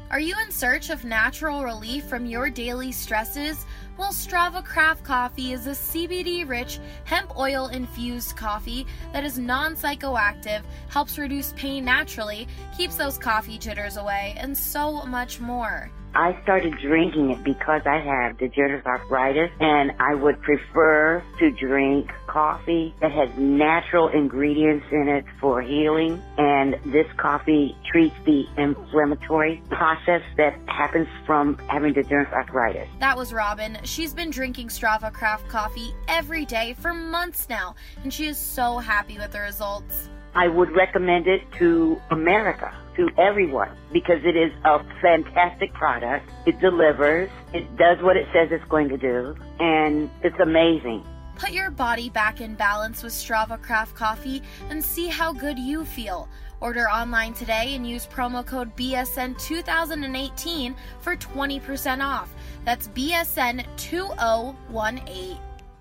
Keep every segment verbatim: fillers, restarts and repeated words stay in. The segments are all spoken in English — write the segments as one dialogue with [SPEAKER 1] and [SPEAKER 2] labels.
[SPEAKER 1] Are you in search of natural relief from your daily stresses? Well, Strava Craft Coffee is a C B D-rich, hemp oil-infused coffee that is non-psychoactive, helps reduce pain naturally, keeps those coffee jitters away, and so much more.
[SPEAKER 2] I started drinking it because I have degenerative arthritis, and I would prefer to drink coffee that has natural ingredients in it for healing, and this coffee treats the inflammatory process that happens from having degenerative arthritis.
[SPEAKER 1] That was Robin. She's been drinking Strava Craft Coffee every day for months now, and she is so happy with the results.
[SPEAKER 2] I would recommend it to America, to everyone, because it is a fantastic product. It delivers. It does what it says it's going to do, and it's amazing.
[SPEAKER 1] Put your body back in balance with Strava Craft Coffee and see how good you feel. Order online today and use promo code B S N two thousand eighteen for twenty percent off. That's B S N two thousand eighteen.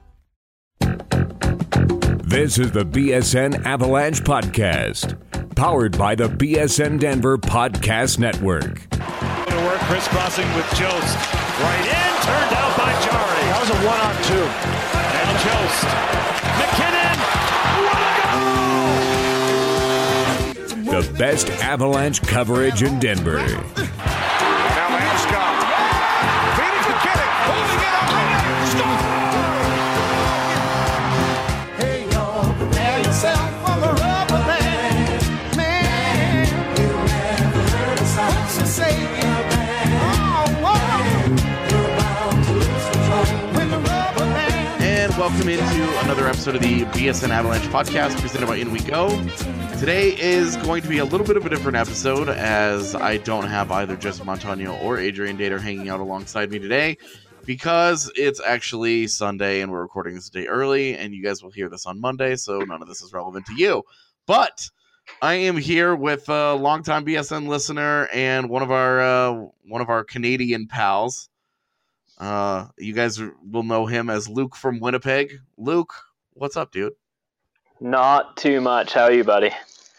[SPEAKER 3] This is the B S N Avalanche Podcast, powered by the B S N Denver Podcast Network.
[SPEAKER 4] To work, crisscrossing with Jost. Right in, turned out by Jari.
[SPEAKER 5] That was a one-on-two.
[SPEAKER 4] And Jost. McKinnon. What a goal!
[SPEAKER 3] The best Avalanche coverage in Denver.
[SPEAKER 5] Now Landeskog. Feeding McKinnon. Holding it up. Score!
[SPEAKER 6] Welcome into another episode of the B S N Avalanche Podcast, presented by In We Go. Today is going to be a little bit of a different episode, as I don't have either Jesse Montano or Adrian Dater hanging out alongside me today, because it's actually Sunday and we're recording this a day early, and you guys will hear this on Monday, so none of this is relevant to you. But I am here with a longtime B S N listener and one of our uh, one of our Canadian pals. Uh, you guys will know him as Luke from Winnipeg. Luke, what's up, dude?
[SPEAKER 7] Not too much. How are you, buddy?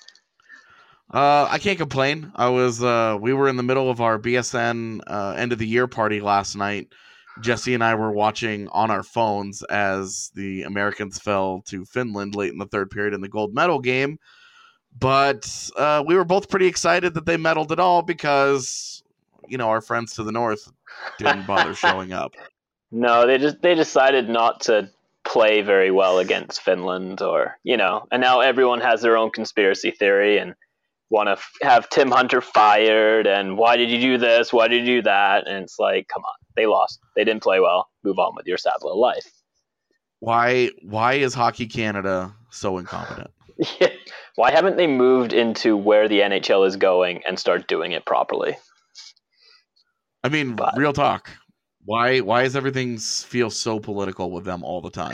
[SPEAKER 6] Uh, I can't complain. I was, uh, we were in the middle of our B S N uh, end of the year party last night. Jesse and I were watching on our phones as the Americans fell to Finland late in the third period in the gold medal game. But uh, we were both pretty excited that they medaled at all because, you know, our friends to the north didn't bother showing up.
[SPEAKER 7] No, they just they decided not to play very well against Finland, or you know, and now everyone has their own conspiracy theory and want to f- have Tim Hunter fired. And why did you do this? Why did you do that? And it's like, come on, they lost. They didn't play well. Move on with your sad little life.
[SPEAKER 6] Why? Why is Hockey Canada so incompetent?
[SPEAKER 7] Yeah. Why haven't they moved into where the N H L is going and start doing it properly?
[SPEAKER 6] I mean, but, real talk. Why why does everything feel so political with them all the time?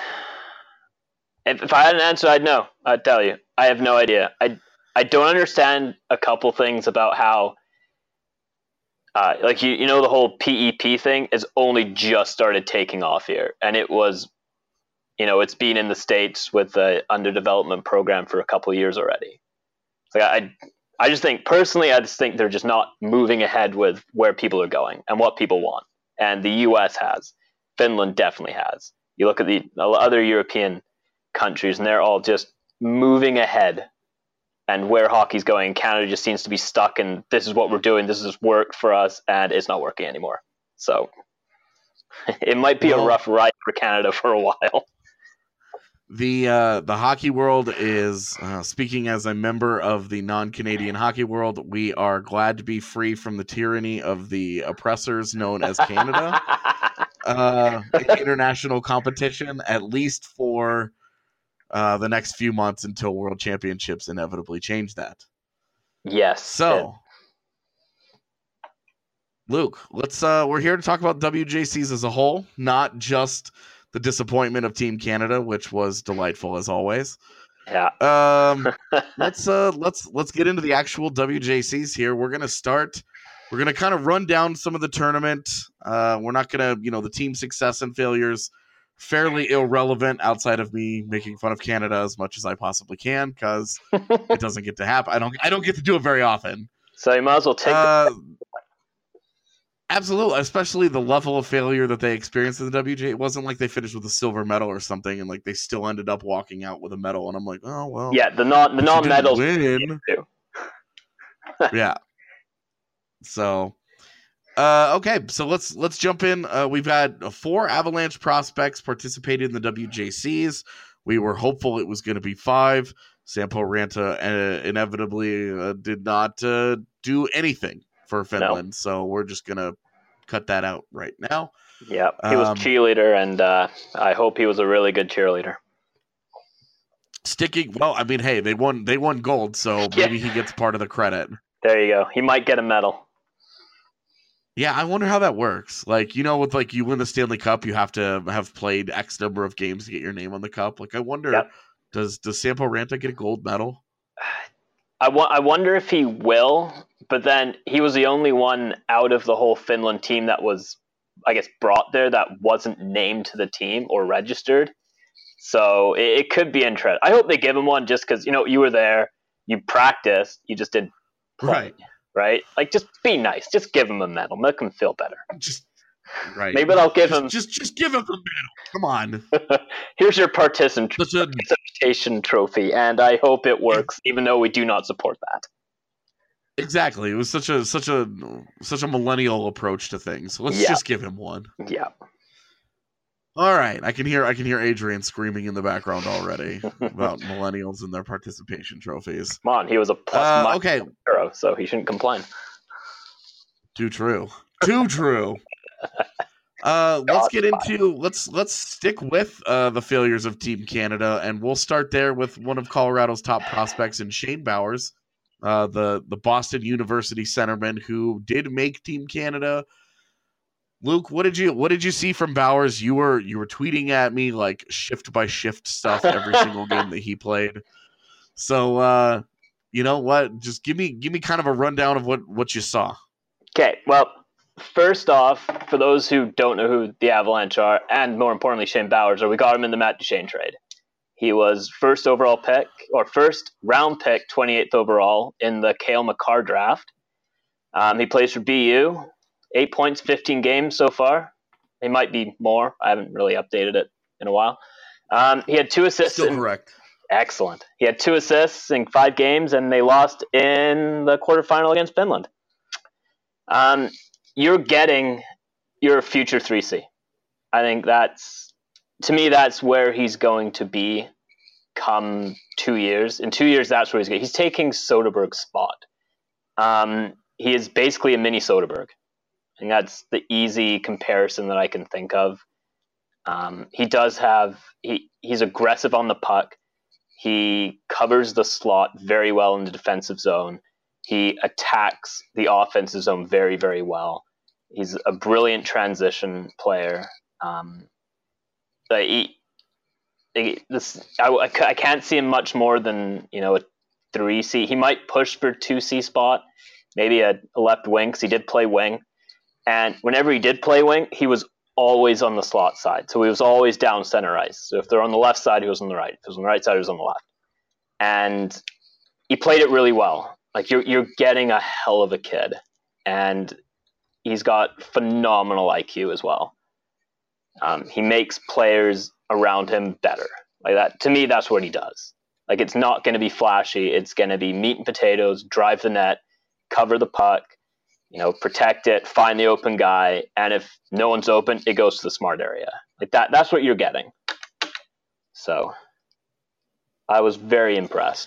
[SPEAKER 7] If, if I had an answer, I'd know. I'd tell you. I have no idea. I, I don't understand a couple things about how, uh, like, you, you know, the whole P E P thing has only just started taking off here. And it was, you know, it's been in the States with the underdevelopment program for a couple of years already. Like, I I just think, personally, I just think they're just not moving ahead with where people are going and what people want. And the U S has. Finland definitely has. You look at the other European countries, and they're all just moving ahead and where hockey's going. Canada just seems to be stuck in, this is what we're doing, this has worked for us, and it's not working anymore. So it might be well, a rough ride for Canada for a while.
[SPEAKER 6] The uh, the hockey world is, uh, speaking as a member of the non-Canadian hockey world, we are glad to be free from the tyranny of the oppressors known as Canada. uh, international competition, at least for uh, the next few months until World Championships inevitably change that.
[SPEAKER 7] Yes.
[SPEAKER 6] So, Luke, let's. Uh, we're here to talk about W J Cs as a whole, not just the disappointment of Team Canada, which was delightful as always.
[SPEAKER 7] Yeah.
[SPEAKER 6] Um, let's uh, let's let's get into the actual W J Cs here. We're gonna start. We're gonna kind of run down some of the tournament. Uh, we're not gonna, you know, the team success and failures, fairly irrelevant outside of me making fun of Canada as much as I possibly can, because it doesn't get to happen. I don't. I don't get to do it very often.
[SPEAKER 7] So you might as well take.
[SPEAKER 6] Uh, Absolutely, especially the level of failure that they experienced in the W J. It wasn't like they finished with a silver medal or something, and like they still ended up walking out with a medal. And I'm like, oh well.
[SPEAKER 7] Yeah, the non the non medals
[SPEAKER 6] win. Yeah. So, uh, okay, so let's let's jump in. Uh, we've had four Avalanche prospects participated in the W J Cs. We were hopeful it was going to be five. Sampo Ranta uh, inevitably uh, did not uh, do anything for Finland, no. So we're just going to cut that out right now.
[SPEAKER 7] Yeah, he was um, cheerleader, and uh, I hope he was a really good cheerleader.
[SPEAKER 6] Sticking, well, I mean, hey, they won they won gold, so maybe he gets part of the credit.
[SPEAKER 7] There you go. He might get a medal.
[SPEAKER 6] Yeah, I wonder how that works. Like, you know, with like you win the Stanley Cup, you have to have played X number of games to get your name on the cup. Like, I wonder, yep. does does Sampo Ranta get a gold medal?
[SPEAKER 7] I, wa- I wonder if he will, but then he was the only one out of the whole Finland team that was, I guess, brought there that wasn't named to the team or registered. So it, it could be interesting. I hope they give him one just because, you know, you were there, you practiced, you just didn't play, right? Right? Like, just be nice. Just give him a medal. Make him feel better.
[SPEAKER 6] Just right.
[SPEAKER 7] Maybe they'll give
[SPEAKER 6] just,
[SPEAKER 7] him
[SPEAKER 6] just just give him a medal. Come on.
[SPEAKER 7] Here's your particip- participation trophy, and I hope it works, even though we do not support that.
[SPEAKER 6] Exactly. It was such a such a such a millennial approach to things. Let's yeah. just give him one.
[SPEAKER 7] Yeah.
[SPEAKER 6] All right. I can hear I can hear Adrian screaming in the background already about millennials and their participation trophies.
[SPEAKER 7] Come on, he was a plus
[SPEAKER 6] uh, okay.
[SPEAKER 7] hero, so he shouldn't complain.
[SPEAKER 6] Too true. Too true. Uh, let's get into let's let's stick with uh, the failures of Team Canada, and we'll start there with one of Colorado's top prospects in Shane Bowers, uh, the the Boston University centerman who did make Team Canada. Luke, what did you what did you see from Bowers? You were you were tweeting at me like shift by shift stuff every single game that he played. So uh, you know what? Just give me give me kind of a rundown of what, what you saw.
[SPEAKER 7] Okay, well, first off, for those who don't know who the Avalanche are, and more importantly Shane Bowers are, we got him in the Matt Duchene trade. He was first overall pick or first round pick, twenty-eighth overall in the Cale Makar draft. Um, he plays for B U. Eight points, fifteen games so far. It might be more. I haven't really updated it in a while. Um, he had two assists.
[SPEAKER 6] Still
[SPEAKER 7] in,
[SPEAKER 6] correct.
[SPEAKER 7] Excellent. He had two assists in five games, and they lost in the quarterfinal against Finland. Um, you're getting your future three C. I think that's, to me, that's where he's going to be come two years. In two years, that's where he's going. He's taking Soderberg's spot. Um, he is basically a mini Soderberg. And that's the easy comparison that I can think of. Um, he does have, he, he's aggressive on the puck. He covers the slot very well in the defensive zone. He attacks the offensive zone very, very well. He's a brilliant transition player. Um, but he, he, this, I, I can't see him much more than, you know, a three C. He might push for two C spot, maybe a, a left wing, because he did play wing. And whenever he did play wing, he was always on the slot side. So he was always down center ice. So if they're on the left side, he was on the right. If he was on the right side, he was on the left. And he played it really well. Like, you're you're getting a hell of a kid. And he's got phenomenal I Q as well. Um, he makes players around him better. Like that. To me, that's what he does. Like, it's not going to be flashy. It's going to be meat and potatoes, drive the net, cover the puck, you know, protect it, find the open guy, and if no one's open, it goes to the smart area. Like that, that's what you're getting. So I was very impressed.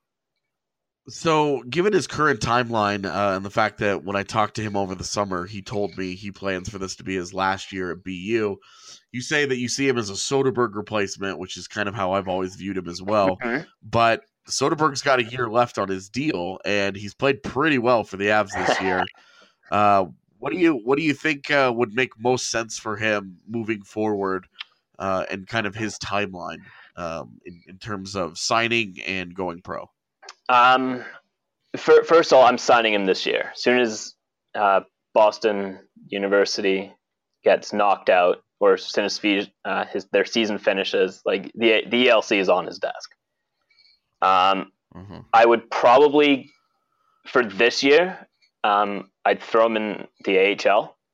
[SPEAKER 6] So given his current timeline uh, and the fact that when I talked to him over the summer, he told me he plans for this to be his last year at B U, you say that you see him as a Soderberg replacement, which is kind of how I've always viewed him as well. Mm-hmm. But Soderberg's got a year left on his deal, and he's played pretty well for the Avs this year. Uh, what do you what do you think uh, would make most sense for him moving forward, uh, and kind of his timeline um, in, in terms of signing and going pro?
[SPEAKER 7] Um, for, first of all, I'm signing him this year. As soon as uh, Boston University gets knocked out, or as soon as uh, his their season finishes, like the the E L C is on his desk. Um, mm-hmm. I would probably, for this year, um, I'd throw him in the A H L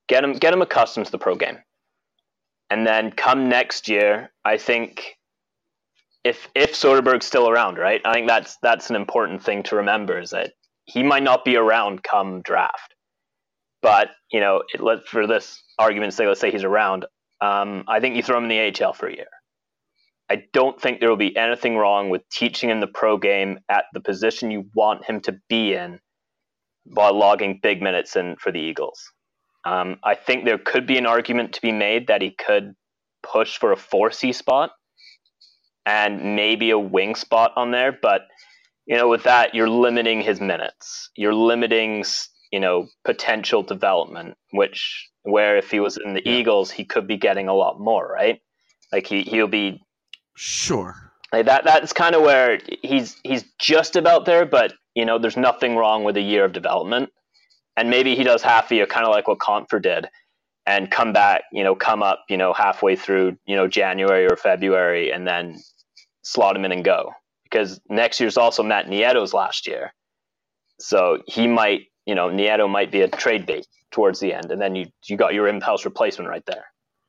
[SPEAKER 7] Get him get him accustomed to the pro game. And then come next year, I think if if Soderberg's still around, right? I think that's that's an important thing to remember, is that he might not be around come draft. But, you know, it, let, for this argument's sake, let's say he's around. Um, I think you throw him in the A H L for a year. I don't think there will be anything wrong with teaching him the pro game at the position you want him to be in while logging big minutes in for the Eagles. Um, I think there could be an argument to be made that he could push for a four C spot and maybe a wing spot on there. But, you know, with that, you're limiting his minutes. You're limiting, you know, potential development, which where if he was in the yeah. Eagles, he could be getting a lot more, right? Like he, he'll be
[SPEAKER 6] sure.
[SPEAKER 7] Like that, that's kind of where he's, he's just about there, but you know, there's nothing wrong with a year of development. And maybe he does half a year, kind of like what Compher did, and come back, you know, come up, you know, halfway through, you know, January or February, and then slot him in and go. Because next year's also Matt Nieto's last year. So he might, you know, Nieto might be a trade bait towards the end. And then you, you got your in-house replacement right there.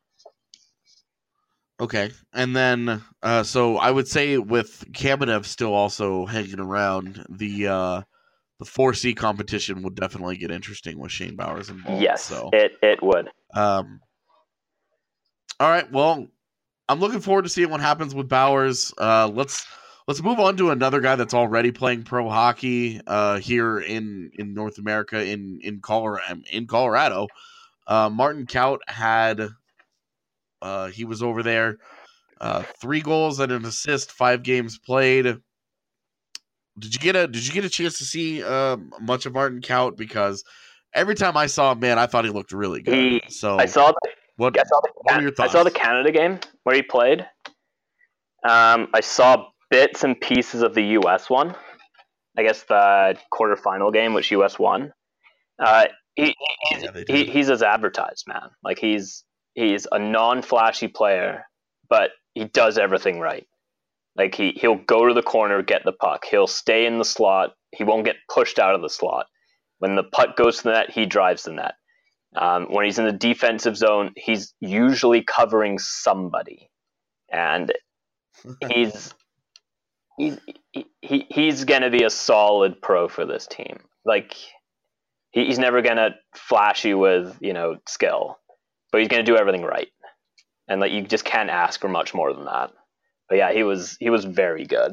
[SPEAKER 6] Okay. And then, uh, so I would say with Kamenev still also hanging around, the uh, the four C competition would definitely get interesting with Shane Bowers involved.
[SPEAKER 7] Yes,
[SPEAKER 6] so.
[SPEAKER 7] it, it would.
[SPEAKER 6] Um. All right. Well, I'm looking forward to seeing what happens with Bowers. Uh, let's let's move on to another guy that's already playing pro hockey uh, here in, in North America, in in Colorado. In Colorado, uh, Martin Kaut had. Uh, he was over there, uh, three goals and an assist, five games played. Did you get a Did you get a chance to see uh, much of Martin Kaut? Because every time I saw him, man, I thought he looked really good.
[SPEAKER 7] He,
[SPEAKER 6] so
[SPEAKER 7] I saw the,
[SPEAKER 6] what,
[SPEAKER 7] I saw the,
[SPEAKER 6] what were your thoughts?
[SPEAKER 7] I saw the Canada game where he played. Um, I saw bits and pieces of the U S one. I guess the quarterfinal game, which U S won. Uh, he, he's,
[SPEAKER 6] yeah,
[SPEAKER 7] he he's as advertised, man. Like he's. He's a non-flashy player, but he does everything right. Like he, he'll go to the corner, get the puck. He'll stay in the slot. He won't get pushed out of the slot. When the puck goes to the net, he drives the net. Um, when he's in the defensive zone, he's usually covering somebody. And he's he's, he, he's going to be a solid pro for this team. Like he, he's never going to flash you with, you know, skill. But he's going to do everything right, and like you just can't ask for much more than that. But yeah, he was he was very good.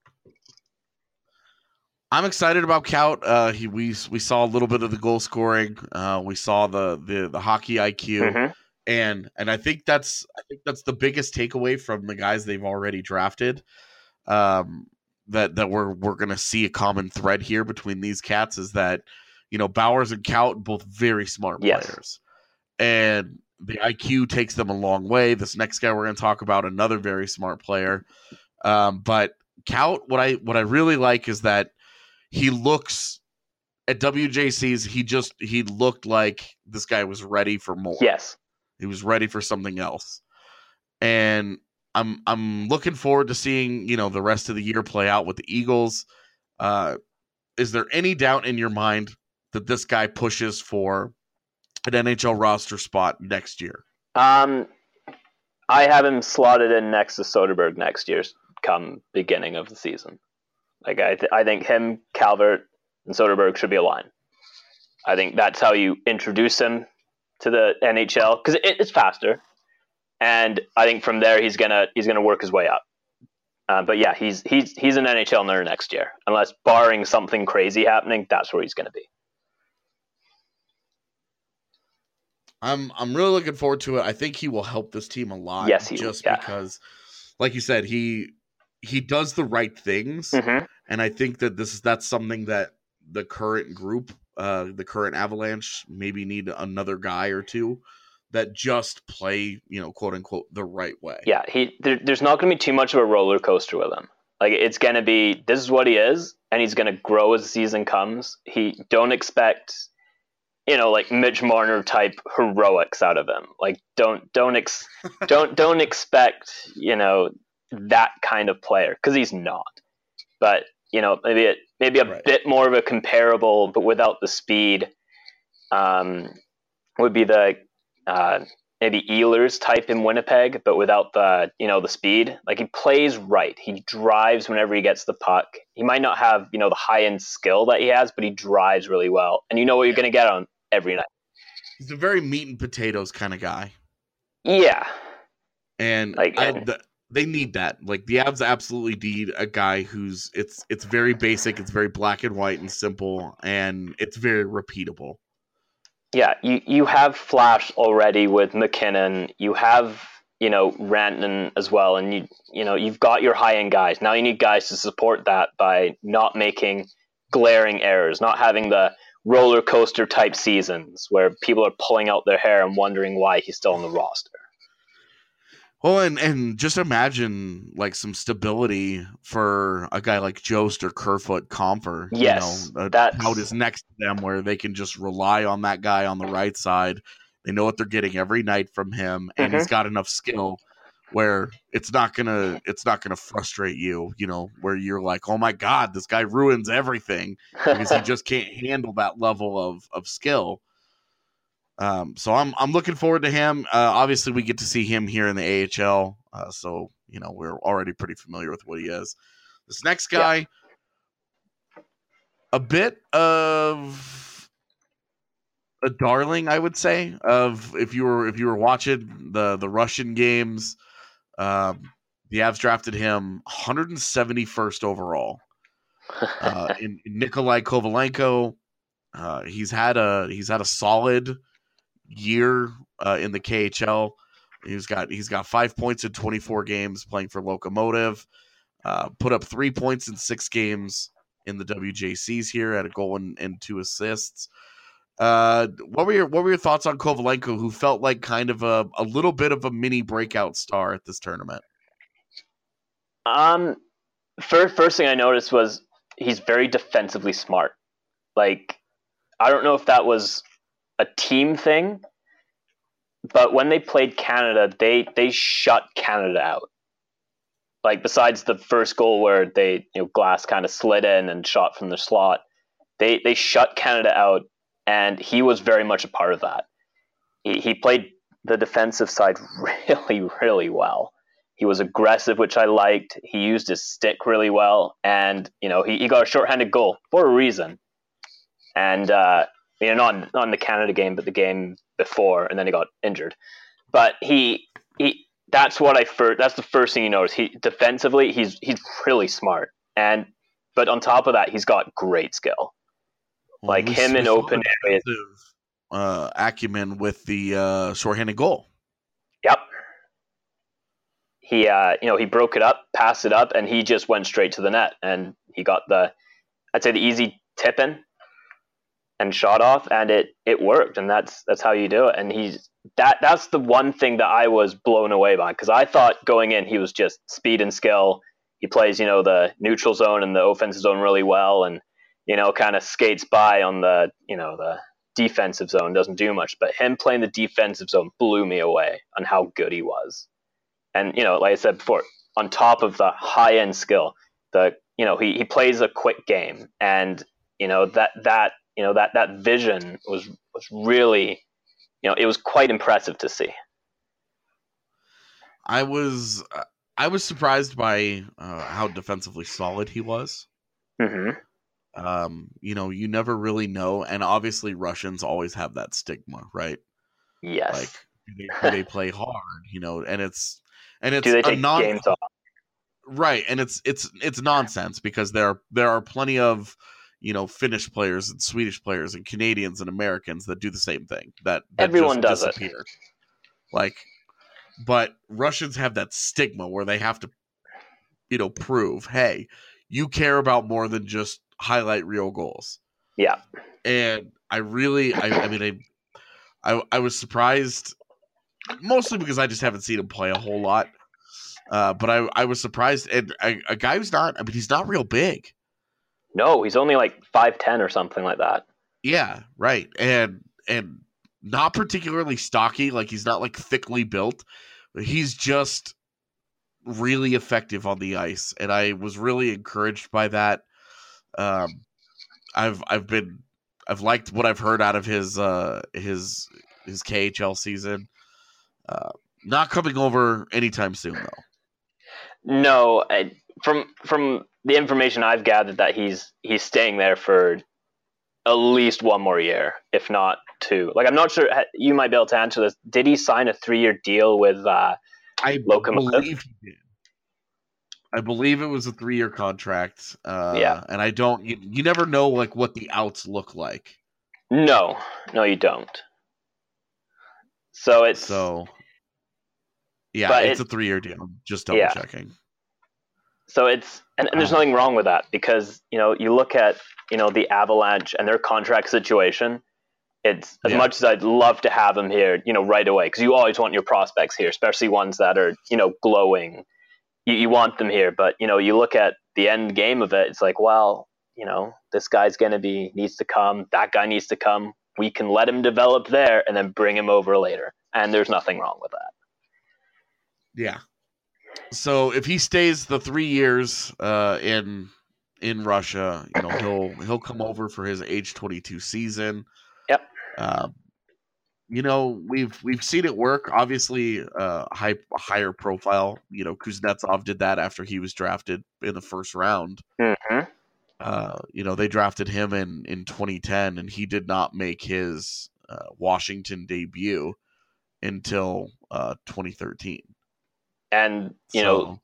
[SPEAKER 6] I'm excited about Kaut. Uh, he we we saw a little bit of the goal scoring. Uh, we saw the the the hockey I Q,
[SPEAKER 7] mm-hmm.
[SPEAKER 6] and and I think that's I think that's the biggest takeaway from the guys they've already drafted. Um, that that we're we're going to see a common thread here between these cats is that you know Bowers and Kaut both very smart
[SPEAKER 7] yes.
[SPEAKER 6] players, and the I Q takes them a long way. This next guy we're going to talk about, another very smart player. Um, but Kaut, what I what I really like is that he looks at W J C's. He just he looked like this guy was ready for more.
[SPEAKER 7] Yes,
[SPEAKER 6] he was ready for something else. And I'm I'm looking forward to seeing you know the rest of the year play out with the Eagles. Uh, is there any doubt in your mind that this guy pushes for an N H L roster spot next year?
[SPEAKER 7] Um, I have him slotted in next to Soderberg next year, come beginning of the season. Like I, th- I think him, Calvert, and Soderberg should be a line. I think that's how you introduce him to the N H L because it, it's faster, and I think from there he's gonna he's gonna work his way up. Uh, but yeah, he's he's he's an N H L player next year, unless barring something crazy happening. That's where he's gonna be.
[SPEAKER 6] I'm I'm really looking forward to it. I think he will help this team a lot.
[SPEAKER 7] Yes, he
[SPEAKER 6] just
[SPEAKER 7] will, yeah.
[SPEAKER 6] because, like you said, he he does the right things,
[SPEAKER 7] mm-hmm.
[SPEAKER 6] and I think that this is that's something that the current group, uh, the current Avalanche, maybe need another guy or two that just play, you know, quote unquote, the right way.
[SPEAKER 7] Yeah, he there, there's not going to be too much of a roller coaster with him. Like it's going to be this is what he is, and he's going to grow as the season comes. He don't expect. You know, like Mitch Marner type heroics out of him. Like, don't don't ex- don't don't expect you know that kind of player because he's not. But you know, maybe it maybe a
[SPEAKER 6] right.
[SPEAKER 7] bit more of a comparable, but without the speed. Um, would be the uh, maybe Ehlers type in Winnipeg, but without the you know the speed. Like he plays right. He drives whenever he gets the puck. He might not have you know the high end skill that he has, but he drives really well, and you know what you're going to get on every night.
[SPEAKER 6] He's a very meat and potatoes kind of guy.
[SPEAKER 7] Yeah,
[SPEAKER 6] and
[SPEAKER 7] like
[SPEAKER 6] I,
[SPEAKER 7] and,
[SPEAKER 6] the, they need that. Like the Avs absolutely need a guy who's it's it's very basic, it's very black and white and simple, and it's very repeatable.
[SPEAKER 7] Yeah, you, you have Flash already with McKinnon. You have, you know, Rantanen as well, and you you know, you've got your high end guys. Now you need guys to support that by not making glaring errors, not having the roller coaster type seasons where people are pulling out their hair and wondering why he's still on the roster.
[SPEAKER 6] Well, and, and just imagine like some stability for a guy like Jost or Kerfoot Comfer.
[SPEAKER 7] Yes,
[SPEAKER 6] you know,
[SPEAKER 7] that's
[SPEAKER 6] out is next to them where they can just rely on that guy on the right side. They know what they're getting every night from him, and
[SPEAKER 7] mm-hmm.
[SPEAKER 6] he's got enough skill where it's not gonna it's not gonna frustrate you. You know, where you're like, oh my god, this guy ruins everything because he just can't handle that level of of skill. Um, so I'm I'm looking forward to him. Uh, obviously, we get to see him here in the A H L, uh, so you know we're already pretty familiar with what he is. This next guy, yeah. a bit of a darling, I would say. Of if you were if you were watching the the Russian games, um, the Avs drafted him one hundred seventy-first overall. Uh, in, in Nikolai Kovalenko, uh, he's had a he's had a solid year uh, in the K H L. He's got he's got five points in twenty-four games playing for Lokomotiv. Uh, put up three points in six games in the W J Cs here, had a goal and, and two assists. Uh, what were your what were your thoughts on Kovalenko, who felt like kind of a, a little bit of a mini breakout star at this tournament?
[SPEAKER 7] Um, first first thing I noticed was he's very defensively smart. Like, I don't know if that was a team thing, but when they played Canada, they they shut Canada out. Like, besides the first goal where they, you know, Glass kind of slid in and shot from the slot, they they shut Canada out, and he was very much a part of that. He, he played the defensive side really, really well. He was aggressive, which I liked. He used his stick really well, and you know he, he got a shorthanded goal for a reason. And uh, you know, not not in the Canada game, but the game before, and then he got injured. But he he that's what I first that's the first thing you notice. He defensively, he's he's really smart, and but on top of that, he's got great skill.
[SPEAKER 6] Well,
[SPEAKER 7] like him in open areas.
[SPEAKER 6] Uh, acumen with the uh, shorthanded goal.
[SPEAKER 7] Yep. He, uh, you know, he broke it up, passed it up, and he just went straight to the net. And he got the, I'd say, the easy tip in and shot off, and it it worked. And that's that's how you do it. And he's that that's the one thing that I was blown away by, because I thought going in he was just speed and skill. He plays, you know, the neutral zone and the offensive zone really well, and you know, kind of skates by on the, you know, the defensive zone, doesn't do much. But him playing the defensive zone blew me away on how good he was. And, you know, like I said before, on top of the high-end skill, the you know, he, he plays a quick game. And, you know, that that you know, that that vision was was really, you know, it was quite impressive to see.
[SPEAKER 6] I was I was surprised by uh, how defensively solid he was.
[SPEAKER 7] Mm-hmm.
[SPEAKER 6] Um, you know, you never really know, and obviously Russians always have that stigma, right?
[SPEAKER 7] Yes.
[SPEAKER 6] Like, do they, do they play hard, you know, and it's and it's
[SPEAKER 7] do they take
[SPEAKER 6] a non-
[SPEAKER 7] games off?
[SPEAKER 6] Right, and it's it's it's nonsense, because there there are plenty of, you know, Finnish players and Swedish players and Canadians and Americans that do the same thing. That, that
[SPEAKER 7] everyone
[SPEAKER 6] just
[SPEAKER 7] does
[SPEAKER 6] disappear.
[SPEAKER 7] it.
[SPEAKER 6] Like, but Russians have that stigma where they have to, you know, prove, hey, you care about more than just highlight real goals.
[SPEAKER 7] Yeah.
[SPEAKER 6] And I really, I, I mean, I, I, I was surprised, mostly because I just haven't seen him play a whole lot. Uh, but I, I was surprised, and a, a guy who's not, I mean, he's not real big.
[SPEAKER 7] No, he's only like five ten or something like that.
[SPEAKER 6] Yeah, right. And, and not particularly stocky, like he's not like thickly built. He's just really effective on the ice. And I was really encouraged by that. Um, I've, I've been, I've liked what I've heard out of his, uh, his his K H L season. Uh, not coming over anytime soon, though.
[SPEAKER 7] No, I, from from the information I've gathered, that he's he's staying there for at least one more year, if not two. Like, I'm not sure. You might be able to answer this. Did he sign a three-year deal with uh,
[SPEAKER 6] I
[SPEAKER 7] Lokomotiv?
[SPEAKER 6] believe he did. I believe it was a three-year contract. Uh,
[SPEAKER 7] yeah,
[SPEAKER 6] and I don't. You, you never know like what the outs look like.
[SPEAKER 7] No, no, you don't. So it's
[SPEAKER 6] so. Yeah,
[SPEAKER 7] but
[SPEAKER 6] it's
[SPEAKER 7] it,
[SPEAKER 6] a three-year deal. Just double
[SPEAKER 7] yeah.
[SPEAKER 6] checking.
[SPEAKER 7] So it's and, and there's nothing wrong with that, because you know you look at you know the Avalanche and their contract situation. It's as
[SPEAKER 6] yeah.
[SPEAKER 7] much as I'd love to have them here, you know, right away, because you always want your prospects here, especially ones that are you know glowing. You, you want them here, but you know you look at the end game of it. It's like, well, you know, this guy's gonna be needs to come. That guy needs to come. We can let him develop there and then bring him over later, and there's nothing wrong with that.
[SPEAKER 6] Yeah. So if he stays the three years uh, in in Russia, you know he'll he'll come over for his age twenty-two season.
[SPEAKER 7] Yep.
[SPEAKER 6] Uh, you know we've we've seen it work. Obviously, uh, high higher profile. You know Kuznetsov did that after he was drafted in the first round.
[SPEAKER 7] Mm-hmm.
[SPEAKER 6] Uh, you know they drafted him in in twenty ten, and he did not make his uh, Washington debut until uh, twenty thirteen.
[SPEAKER 7] And, you
[SPEAKER 6] so,
[SPEAKER 7] know,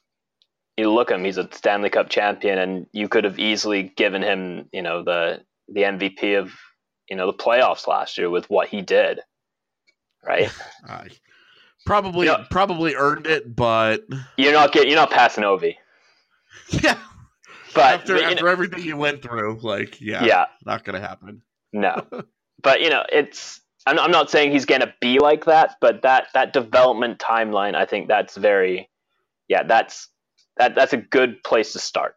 [SPEAKER 7] you look at him, he's a Stanley Cup champion, and you could have easily given him, you know, the the M V P of, you know, the playoffs last year with what he did. Right?
[SPEAKER 6] I probably
[SPEAKER 7] you know,
[SPEAKER 6] probably earned it, but
[SPEAKER 7] you're not getting you're not passing Ovi.
[SPEAKER 6] Yeah.
[SPEAKER 7] But
[SPEAKER 6] after
[SPEAKER 7] but,
[SPEAKER 6] after
[SPEAKER 7] know,
[SPEAKER 6] everything you went through, like, yeah,
[SPEAKER 7] yeah.
[SPEAKER 6] not gonna happen.
[SPEAKER 7] No. But you know, it's I'm, I'm not saying he's going to be like that, but that, that development timeline, I think that's very, yeah, that's that that's a good place to start.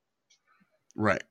[SPEAKER 6] Right.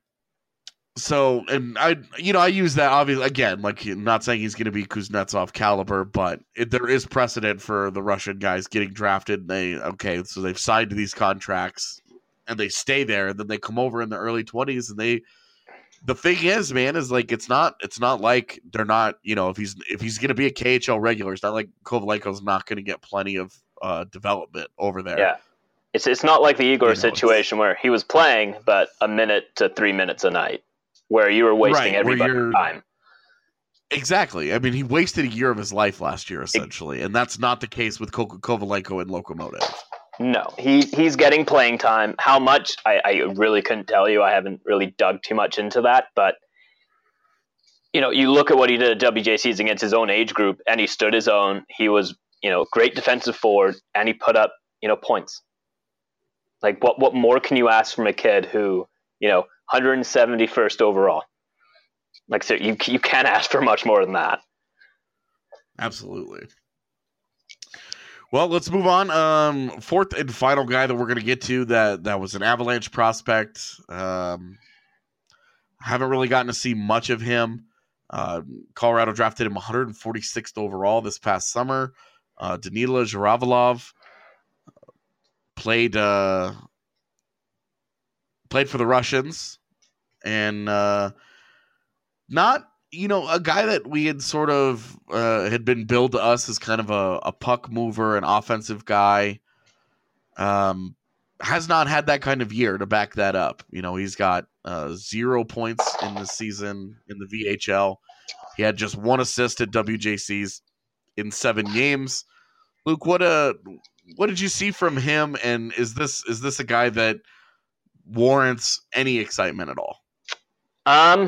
[SPEAKER 6] So, and I, you know, I use that obviously again, like not saying he's going to be Kuznetsov caliber, but it, there is precedent for the Russian guys getting drafted. They okay, so they've signed to these contracts and they stay there, and then they come over in the early twenties, and they. The thing is, man, is like it's not it's not like they're not, you know, if he's if he's going to be a K H L regular, it's not like Kovalenko's not going to get plenty of uh, development over there.
[SPEAKER 7] Yeah, it's it's not like the Igor
[SPEAKER 6] you know,
[SPEAKER 7] situation where he was playing, but a minute to three minutes a night, where you were wasting
[SPEAKER 6] right,
[SPEAKER 7] everybody's time.
[SPEAKER 6] Exactly. I mean, he wasted a year of his life last year, essentially, it, and that's not the case with Ko- Kovalenko and Lokomotiv.
[SPEAKER 7] No, he he's getting playing time. How much, I, I really couldn't tell you. I haven't really dug too much into that. But, you know, you look at what he did at W J Cs against his own age group, and he stood his own. He was, you know, great defensive forward, and he put up, you know, points. Like, what, what more can you ask from a kid who, you know, one hundred seventy-first overall? Like, so you, you can't ask for much more than that.
[SPEAKER 6] Absolutely. Well, let's move on. Um, fourth and final guy that we're going to get to that that was an Avalanche prospect. Um, haven't really gotten to see much of him. Uh, Colorado drafted him one hundred forty-sixth overall this past summer. Uh, Danila Zhiravalov played uh, played for the Russians, and uh, not. You know, a guy that we had sort of uh, had been billed to us as kind of a, a puck mover, an offensive guy, um, has not had that kind of year to back that up. You know, he's got uh, zero points in the season in the V H L. He had just one assist at W J Cs in seven games. Luke, what uh, what did you see from him? And is this is this a guy that warrants any excitement at all?
[SPEAKER 7] Um.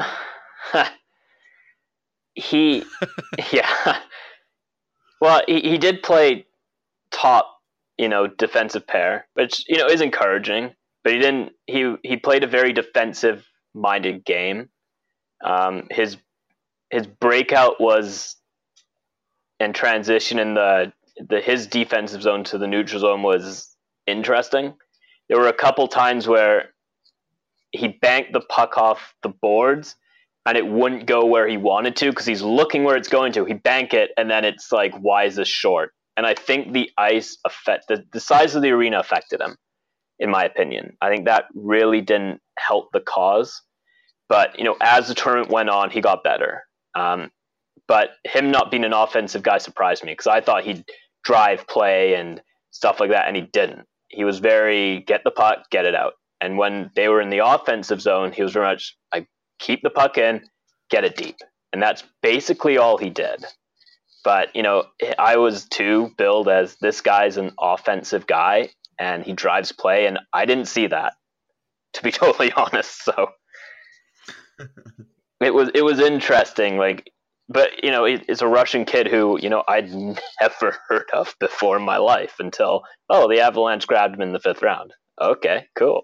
[SPEAKER 7] He, yeah. Well, he, he did play top, you know, defensive pair, which, you know, is encouraging. But he didn't. He he played a very defensive-minded game. Um, his his breakout was in transition in the the his defensive zone to the neutral zone was interesting. There were a couple times where he banked the puck off the boards, and it wouldn't go where he wanted to because he's looking where it's going to. He bank it, and then it's like, why is this short? And I think the ice affect the, the size of the arena affected him, in my opinion. I think that really didn't help the cause. But, you know, as the tournament went on, he got better. Um, but him not being an offensive guy surprised me because I thought he'd drive play and stuff like that, and he didn't. He was very get the puck, get it out. And when they were in the offensive zone, he was very much like keep the puck in, get it deep. And that's basically all he did. But, you know, I was too billed as this guy's an offensive guy and he drives play, and I didn't see that, to be totally honest. So it was it was interesting. Like, but, you know, it's a Russian kid who, you know, I'd never heard of before in my life until, oh, the Avalanche grabbed him in the fifth round. Okay, cool.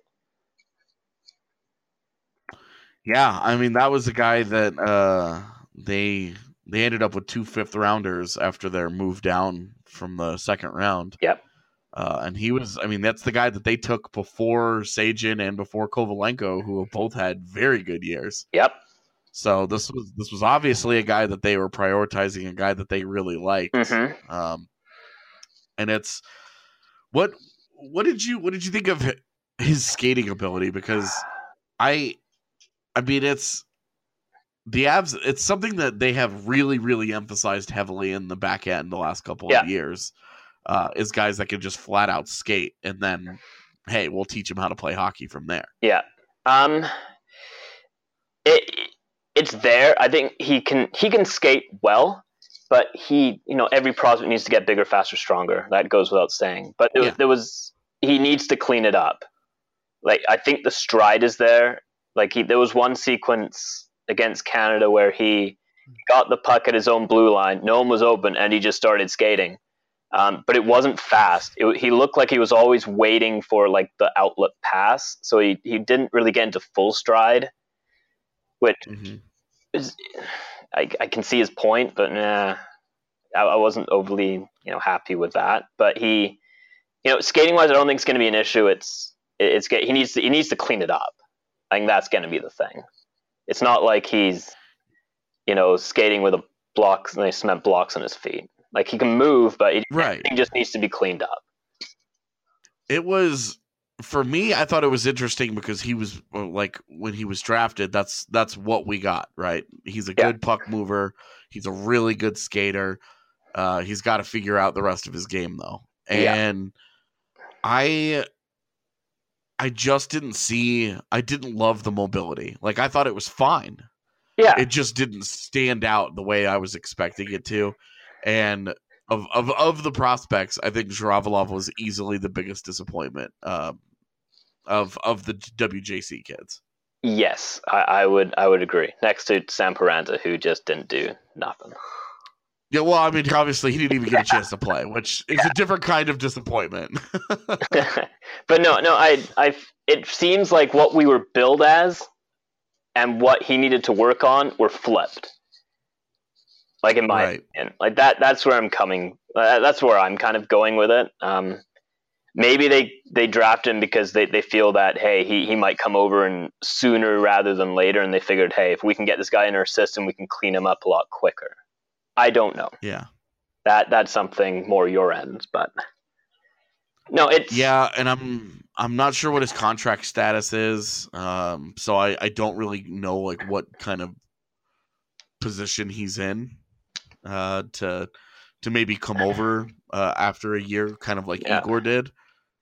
[SPEAKER 6] Yeah, I mean, that was a guy that uh, they they ended up with two fifth rounders after their move down from the second round.
[SPEAKER 7] Yep.
[SPEAKER 6] Uh, and he was, I mean, that's the guy that they took before Sajin and before Kovalenko, who have both had very good years.
[SPEAKER 7] Yep.
[SPEAKER 6] So this was this was obviously a guy that they were prioritizing, a guy that they really liked.
[SPEAKER 7] Mm-hmm.
[SPEAKER 6] Um, and it's what what did you what did you think of his skating ability? Because I, I mean, it's the Avs. It's something that they have really really emphasized heavily in the back end the last couple
[SPEAKER 7] yeah.
[SPEAKER 6] of years. Uh, is guys that can just flat out skate, and then hey, we'll teach them how to play hockey from there.
[SPEAKER 7] Yeah. Um. It. It's there. I think he can he can skate well, but he, you know, every prospect needs to get bigger, faster, stronger. That goes without saying. But there,
[SPEAKER 6] yeah.
[SPEAKER 7] was, there was he needs to clean it up. Like, I think the stride is there. Like, he there was one sequence against Canada where he got the puck at his own blue line. No one was open, and he just started skating. Um, but it wasn't fast. It, he looked like he was always waiting for like the outlet pass, so he he didn't really get into full stride. Which
[SPEAKER 6] mm-hmm.
[SPEAKER 7] is, I, I can see his point, but nah, I, I wasn't overly, you know, happy with that. But he, you know, skating wise, I don't think it's going to be an issue. It's it's he needs to he needs to clean it up. I think that's going to be the thing. It's not like he's, you know, skating with a blocks and they cement blocks on his feet. Like, he can move, but he,
[SPEAKER 6] right.
[SPEAKER 7] he just needs to be cleaned up.
[SPEAKER 6] It was. For me, I thought it was interesting because he was like when he was drafted, that's that's what we got, right? He's a
[SPEAKER 7] yeah.
[SPEAKER 6] good puck mover. He's a really good skater. Uh, he's got to figure out the rest of his game though. And yeah. I I just didn't see I didn't love the mobility. Like, I thought it was fine.
[SPEAKER 7] Yeah.
[SPEAKER 6] It just didn't stand out the way I was expecting it to. And of of, of the prospects, I think Zhiravalov was easily the biggest disappointment. Um, Of of the W J C kids,
[SPEAKER 7] yes, I, I would I would agree. Next to Sam Paranta, who just didn't do nothing.
[SPEAKER 6] Yeah, well, I mean, obviously he didn't even get a chance to play, which is a different kind of disappointment.
[SPEAKER 7] But no, no, I I it seems like what we were billed as and what he needed to work on were flipped. Like, in my
[SPEAKER 6] right.
[SPEAKER 7] opinion, like that that's where I'm coming. Uh, that's where I'm kind of going with it. Um, Maybe they, they draft him because they, they feel that, hey, he, he might come over and sooner rather than later, and they figured, hey, if we can get this guy in our system, we can clean him up a lot quicker. I don't know.
[SPEAKER 6] Yeah.
[SPEAKER 7] That that's something more your end, but no, it's
[SPEAKER 6] yeah, and I'm I'm not sure what his contract status is. Um, so I, I don't really know like what kind of position he's in uh to to maybe come over uh, after a year, kind of like
[SPEAKER 7] yeah.
[SPEAKER 6] Igor did.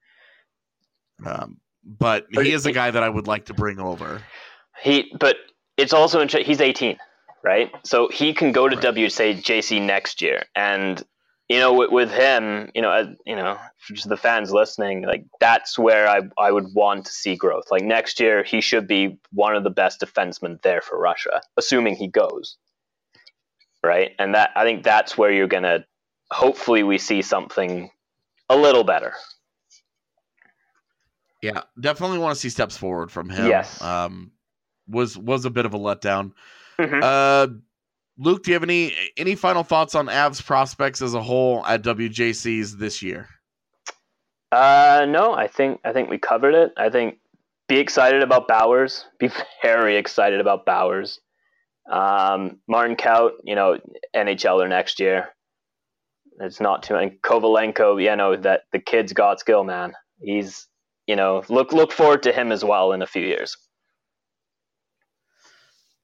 [SPEAKER 6] Um, but he is a guy that I would like to bring over.
[SPEAKER 7] He, but it's also in, he's eighteen, right? So he can go to
[SPEAKER 6] right.
[SPEAKER 7] W J C next year, and you know, with, with him, you know, uh, you know, for just the fans listening, like that's where I I would want to see growth. Like, next year, he should be one of the best defensemen there for Russia, assuming he goes. Right, and that I think that's where you're gonna. Hopefully, we see something a little better.
[SPEAKER 6] Yeah, definitely want to see steps forward from him.
[SPEAKER 7] Yes,
[SPEAKER 6] um, was was a bit of a letdown.
[SPEAKER 7] Mm-hmm.
[SPEAKER 6] Uh, Luke, do you have any any final thoughts on Avs prospects as a whole at W J Cs this year?
[SPEAKER 7] Uh, no, I think I think we covered it. I think be excited about Bowers. Be very excited about Bowers. Um, Martin Kaut, you know, N H L er next year. It's not too many. Kovalenko, you know, that the kid's got skill, man. He's, you know, look look forward to him as well in a few years.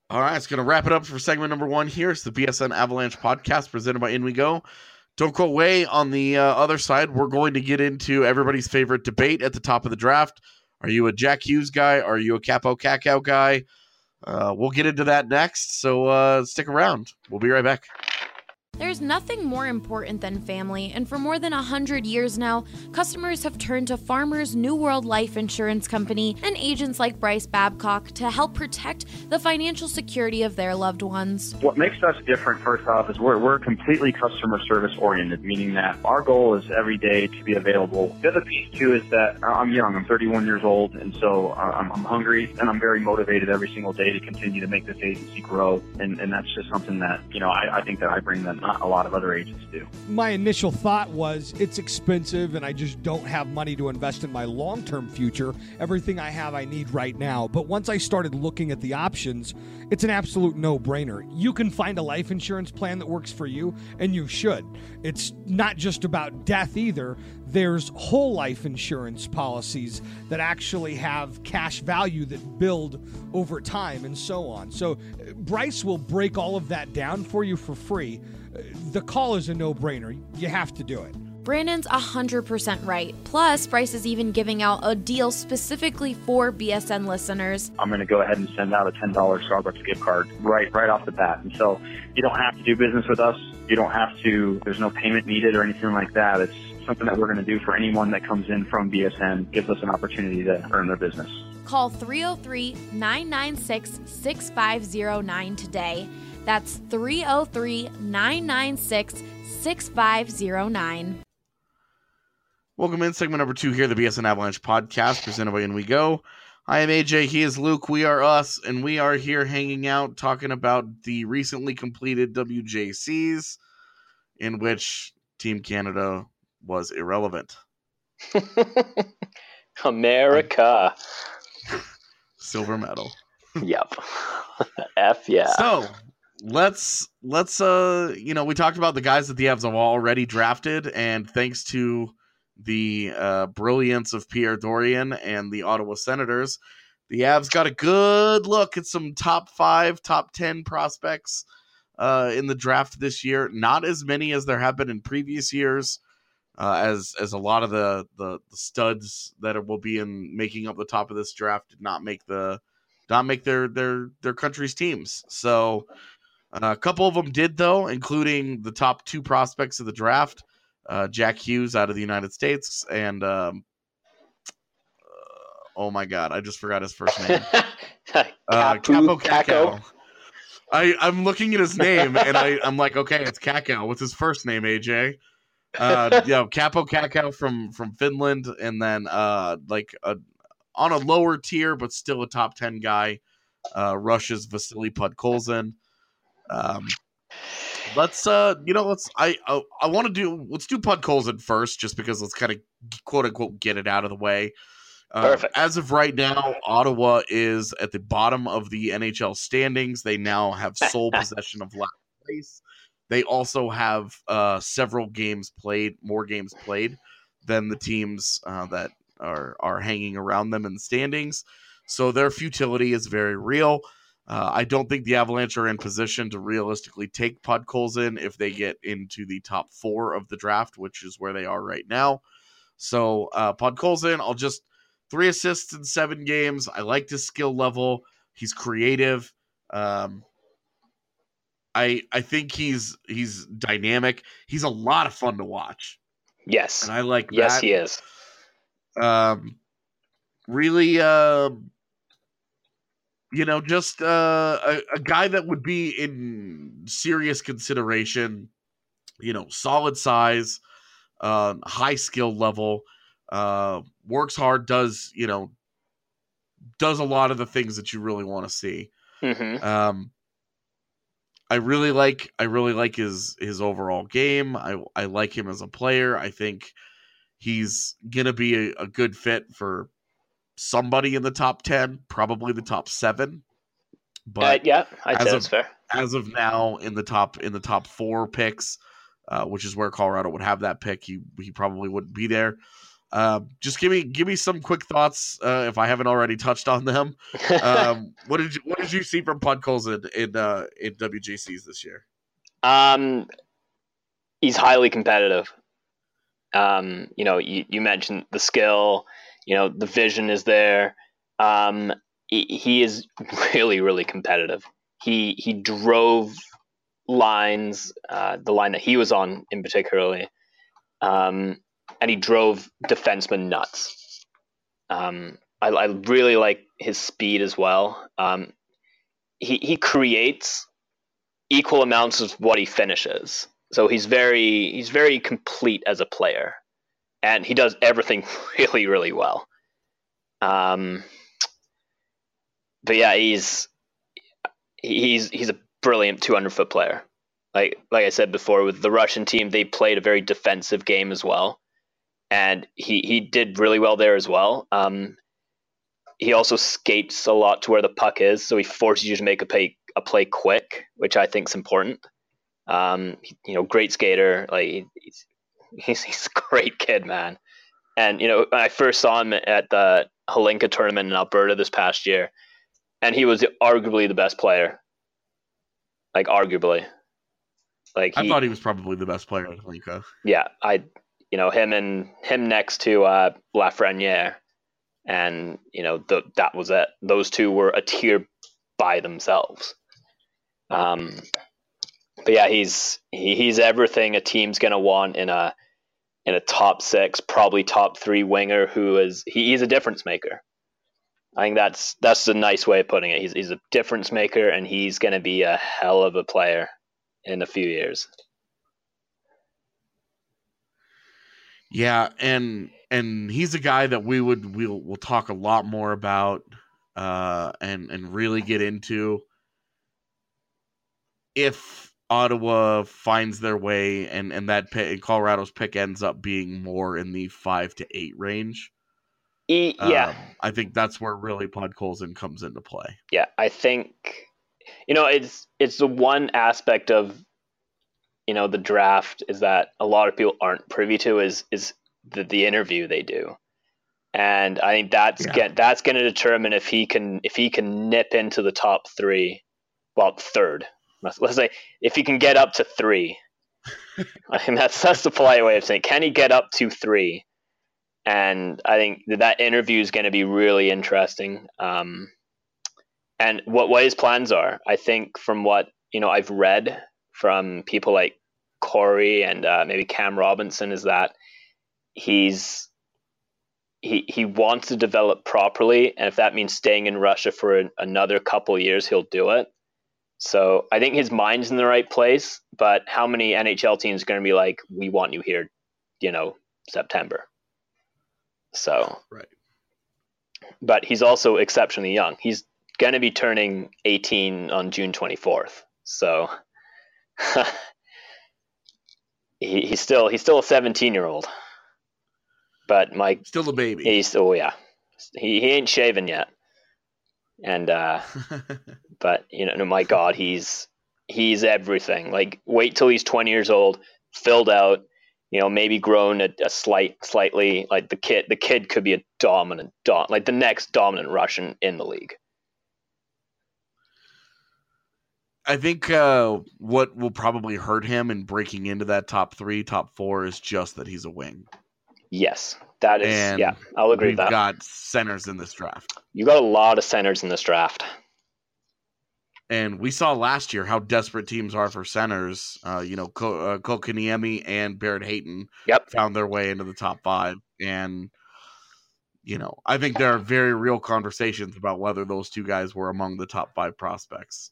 [SPEAKER 6] All right, it's going to wrap it up for segment number one here. It's the B S N Avalanche podcast presented by In We Go. Don't go away. On the uh, other side, we're going to get into everybody's favorite debate at the top of the draft. Are you a Jack Hughes guy? Are you a Kaapo Kakko guy? Uh, we'll get into that next, so uh, stick around. We'll be right back.
[SPEAKER 1] There's nothing more important than family, and for more than one hundred years now, customers have turned to Farmers New World Life Insurance Company and agents like Bryce Babcock to help protect the financial security of their loved ones.
[SPEAKER 8] What makes us different, first off, is we're, we're completely customer service oriented, meaning that our goal is every day to be available. The other piece, too, is that I'm young. I'm thirty-one years old, and so I'm, I'm hungry, and I'm very motivated every single day to continue to make this agency grow, and, and that's just something that, you know, I, I think that I bring them. Not a lot of other agents do.
[SPEAKER 9] My initial thought was it's expensive and I just don't have money to invest in my long-term future. Everything I have I need right now. But once I started looking at the options, it's an absolute no-brainer. You can find a life insurance plan that works for you, and you should. It's not just about death either. There's whole life insurance policies that actually have cash value that build over time and so on. So Bryce will break all of that down for you for free. The call is a no-brainer. You have to do it.
[SPEAKER 1] Brandon's one hundred percent right. Plus, Bryce is even giving out a deal specifically for B S N listeners.
[SPEAKER 8] I'm going to go ahead and send out a ten dollars Starbucks gift card right right off the bat. And so you don't have to do business with us. You don't have to, there's no payment needed or anything like that. It's something that we're going to do for anyone that comes in from B S N, gives us an opportunity to earn their business.
[SPEAKER 1] Call three oh three, nine nine six, six five oh nine today. That's three oh three, nine nine six, six five oh nine.
[SPEAKER 6] Welcome in segment number two here, the B S N Avalanche podcast presented by In We Go. I am A J, he is Luke, we are us, and we are here hanging out talking about the recently completed W J Cs in which Team Canada was irrelevant.
[SPEAKER 7] America.
[SPEAKER 6] Silver medal.
[SPEAKER 7] Yep. F yeah.
[SPEAKER 6] So let's let's uh you know, we talked about the guys that the Avs have already drafted, and thanks to the uh, brilliance of Pierre Dorion and the Ottawa Senators, the Avs got a good look at some top five, top ten prospects uh, in the draft this year. Not as many as there have been in previous years, uh, as as a lot of the, the the studs that will be in making up the top of this draft did not make the not make their their their country's teams. So uh, a couple of them did, though, including the top two prospects of the draft. Uh, Jack Hughes out of the United States, and um, uh, oh my god, I just forgot his first name. uh, Kaapo Kakko. I I'm looking at his name, and I I'm like, okay, it's Kakko. What's his first name, A J? Uh, yeah, Kaapo Kakko from from Finland, and then uh, like a, on a lower tier, but still a top ten guy. Uh, Russia's Vasily Podkolzin. Um. Let's uh, you know, let's I I, I want to do let's do Podkolzin first, just because let's kind of quote unquote get it out of the way. Uh,
[SPEAKER 7] Perfect.
[SPEAKER 6] As of right now, Ottawa is at the bottom of the N H L standings. They now have sole possession of last place. They also have uh, several games played, more games played than the teams uh, that are are hanging around them in the standings. So their futility is very real. Uh, I don't think the Avalanche are in position to realistically take Podkolzin if they get into the top four of the draft, which is where they are right now. So uh, Podkolzin, I'll just three assists in seven games. I like his skill level. He's creative. Um, I I think he's he's dynamic. He's a lot of fun to watch.
[SPEAKER 7] Yes,
[SPEAKER 6] and I like
[SPEAKER 7] yes,
[SPEAKER 6] that.
[SPEAKER 7] he is.
[SPEAKER 6] Um, really. Uh, You know, just uh, a, a guy that would be in serious consideration, you know, solid size, uh, high skill level, uh, works hard, does, you know, does a lot of the things that you really want to see.
[SPEAKER 7] Mm-hmm.
[SPEAKER 6] Um, I really like, I really like his, his overall game. I, I like him as a player. I think he's going to be a, a good fit for somebody in the top ten, probably the top seven. But
[SPEAKER 7] uh, yeah, I'd say
[SPEAKER 6] of,
[SPEAKER 7] that's fair.
[SPEAKER 6] As of now, in the top in the top four picks, uh, which is where Colorado would have that pick, he he probably wouldn't be there. Uh, just give me give me some quick thoughts uh, if I haven't already touched on them. Um, what did you what did you see from Podkolzin in uh, in W G Cs this year?
[SPEAKER 7] Um, he's highly competitive. Um, you know, you, you mentioned the skill. You know, the vision is there. Um, he, he is really really competitive. He he drove lines, uh, the line that he was on in particularly. Um, and he drove defensemen nuts. Um, I, I really like his speed as well. Um, he he creates equal amounts of what he finishes, so he's very he's very complete as a player, and he does everything really really well. Um, but yeah, he's he's he's a brilliant two hundred foot player. Like like I said before, with the Russian team, they played a very defensive game as well. And he, he did really well there as well. Um, he also skates a lot to where the puck is, so he forces you to make a play a play quick, which I think is important. Um, he, you know, great skater. Like he's, he's he's a great kid, man. And you know, when I first saw him at the Hlinka tournament in Alberta this past year, and he was arguably the best player. Like arguably, like he,
[SPEAKER 6] I thought he was probably the best player at Hlinka.
[SPEAKER 7] Yeah, I. You know, him and him next to uh, Lafreniere, and you know the, that was it. Those two were a tier by themselves. Um, but yeah, he's he, he's everything a team's gonna want in a in a top six, probably top three winger who is he, he's a difference maker. I think that's that's a nice way of putting it. He's he's a difference maker, and he's gonna be a hell of a player in a few years.
[SPEAKER 6] Yeah, and and he's a guy that we would we'll we'll talk a lot more about uh, and and really get into if Ottawa finds their way and and that pick, Colorado's pick ends up being more in the five to eight range.
[SPEAKER 7] E, yeah,
[SPEAKER 6] um, I think that's where really Podkolzin comes into play.
[SPEAKER 7] Yeah, I think you know it's it's the one aspect of. You know, the draft is that a lot of people aren't privy to is is the, the interview they do, and I think that's yeah. get that's going to determine if he can if he can nip into the top three, well third. Let's, let's say if he can get up to three. I think that's that's the polite way of saying. Can he get up to three? And I think that, that interview is going to be really interesting. Um, and what what his plans are, I think from what you know I've read. From people like Corey and uh, maybe Cam Robinson is that he's he he wants to develop properly, and if that means staying in Russia for an, another couple years, he'll do it. So I think his mind's in the right place, but how many N H L teams are going to be like, we want you here, you know, September? So
[SPEAKER 6] right,
[SPEAKER 7] but he's also exceptionally young. He's going to be turning eighteen on June twenty-fourth. So. he, he's still he's still a seventeen year old, but Mike
[SPEAKER 6] still a baby.
[SPEAKER 7] He's oh yeah, he he ain't shaven yet, and uh, but you know, my God, he's he's everything. Like wait till he's twenty years old, filled out, you know, maybe grown a, a slight slightly. Like the kid, the kid could be a dominant, dom- like the next dominant Russian in the league.
[SPEAKER 6] I think uh, what will probably hurt him in breaking into that top three, top four is just that he's a wing.
[SPEAKER 7] Yes, that is.
[SPEAKER 6] And
[SPEAKER 7] yeah, I'll agree
[SPEAKER 6] with
[SPEAKER 7] with that.
[SPEAKER 6] We've got centers in this draft.
[SPEAKER 7] You got a lot of centers in this draft.
[SPEAKER 6] And we saw last year how desperate teams are for centers. Uh, you know, Ko- uh, Kotkaniemi and Barrett Hayton
[SPEAKER 7] yep.
[SPEAKER 6] found their way into the top five. And, you know, I think there are very real conversations about whether those two guys were among the top five prospects.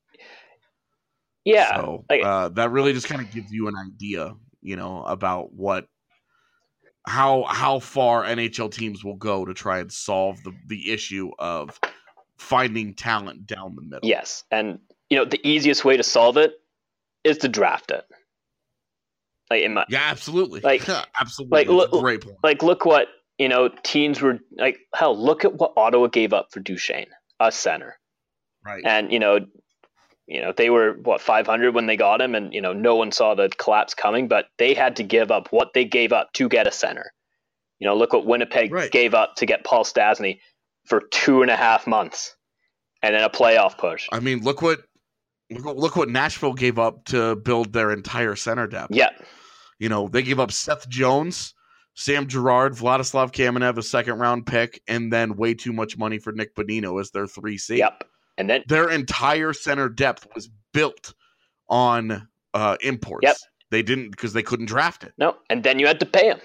[SPEAKER 7] Yeah.
[SPEAKER 6] So
[SPEAKER 7] like,
[SPEAKER 6] uh, that really just kind of gives you an idea, you know, about what, how, how far N H L teams will go to try and solve the, the issue of finding talent down the middle.
[SPEAKER 7] Yes. And, you know, the easiest way to solve it is to draft it. Like in my,
[SPEAKER 6] yeah, absolutely.
[SPEAKER 7] Like,
[SPEAKER 6] absolutely.
[SPEAKER 7] Like, look,
[SPEAKER 6] great point.
[SPEAKER 7] Like, look what, you know, teams were like, hell, look at what Ottawa gave up for Duchesne, a center.
[SPEAKER 6] Right.
[SPEAKER 7] And, you know, You know, they were, what, five hundred when they got him, and, you know, no one saw the collapse coming, but they had to give up what they gave up to get a center. You know, look what Winnipeg
[SPEAKER 6] Right.
[SPEAKER 7] gave up to get Paul Stastny for two and a half months, and then a playoff push.
[SPEAKER 6] I mean, look what look what, look what Nashville gave up to build their entire center depth.
[SPEAKER 7] Yeah,
[SPEAKER 6] You know, they gave up Seth Jones, Sam Girard, Vladislav Kamenev, a second round pick, and then way too much money for Nick Bonino as their three C.
[SPEAKER 7] yep. And then
[SPEAKER 6] Their entire center depth was built on uh, imports.
[SPEAKER 7] Yep.
[SPEAKER 6] They didn't because they couldn't draft it.
[SPEAKER 7] no, and then you had to pay him.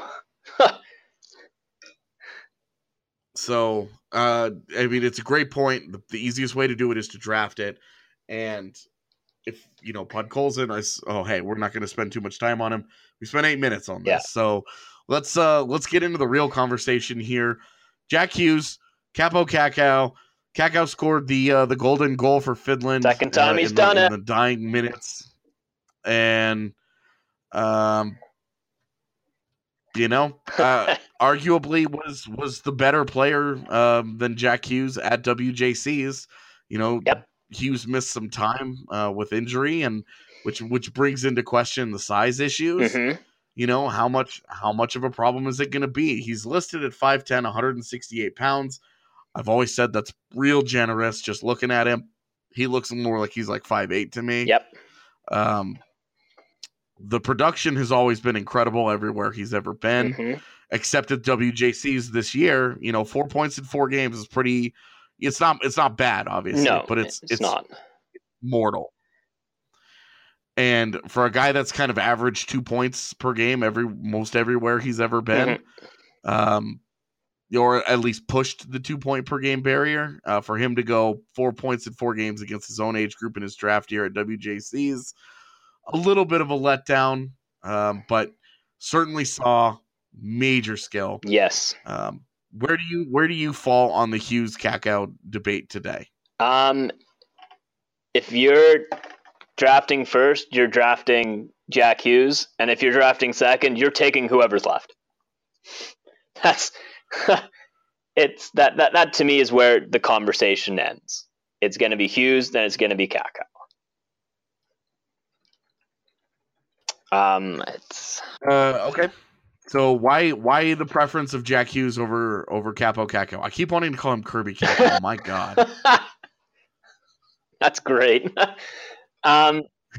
[SPEAKER 6] So, uh, I mean, it's a great point. The, the easiest way to do it is to draft it. And if, you know, Podkolzin, I, s- oh, hey, we're not going to spend too much time on him. We spent eight minutes on this.
[SPEAKER 7] Yeah.
[SPEAKER 6] So let's uh, let's get into the real conversation here. Jack Hughes, Capo Kakao. Kakao scored the uh, the golden goal for Finland.
[SPEAKER 7] Second time
[SPEAKER 6] uh,
[SPEAKER 7] he's
[SPEAKER 6] in
[SPEAKER 7] done
[SPEAKER 6] the,
[SPEAKER 7] it.
[SPEAKER 6] in the dying minutes. And, um, you know, uh, arguably was was the better player um, than Jack Hughes at W J Cs. You know,
[SPEAKER 7] Yep.
[SPEAKER 6] Hughes missed some time uh, with injury, and which which brings into question the size issues.
[SPEAKER 7] Mhm.
[SPEAKER 6] You know, how much how much of a problem is it going to be? He's listed at five ten, one hundred sixty-eight pounds. I've always said that's real generous. Just looking at him, he looks more like he's like five eight to me.
[SPEAKER 7] Yep.
[SPEAKER 6] Um, the production has always been incredible everywhere he's ever been,
[SPEAKER 7] Mhm.
[SPEAKER 6] except at W J Cs this year. You know, four points in four games is pretty. It's not. It's not bad, obviously,
[SPEAKER 7] No,
[SPEAKER 6] but it's
[SPEAKER 7] it's not.
[SPEAKER 6] mortal. And for a guy that's kind of averaged two points per game every most everywhere he's ever been,
[SPEAKER 7] Mhm.
[SPEAKER 6] um, or at least pushed the two point per game barrier, uh, for him to go four points in four games against his own age group in his draft year at W J Cs, a little bit of a letdown, um, but certainly saw major skill.
[SPEAKER 7] Yes.
[SPEAKER 6] Um, where do you where do you fall on the Hughes Kakao debate today?
[SPEAKER 7] Um, if you're drafting first, you're drafting Jack Hughes, and if you're drafting second, you're taking whoever's left. That's it's that that that to me is where the conversation ends. It's going to be Hughes, then it's going to be Kakao. Um, it's
[SPEAKER 6] Uh, okay. So why why the preference of Jack Hughes over over Capo Kakao? I keep wanting to call him Kirby Kakao. My God.
[SPEAKER 7] That's great. um,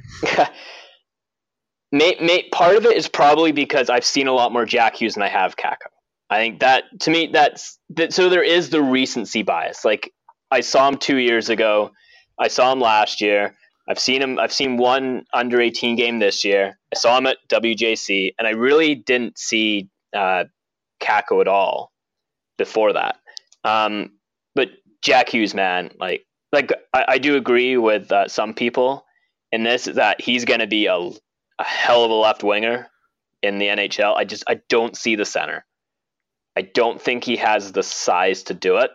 [SPEAKER 7] may, may, part of it is probably because I've seen a lot more Jack Hughes than I have Kakao. I think that to me that's that. So there is the recency bias. Like I saw him two years ago, I saw him last year. I've seen him. I've seen one under eighteen game this year. I saw him at W J C, and I really didn't see uh, Kakao at all before that. Um, but Jack Hughes, man, like like I, I do agree with uh, some people in this that he's going to be a, a hell of a left winger in the N H L. I just I don't see the center. I don't think he has the size to do it,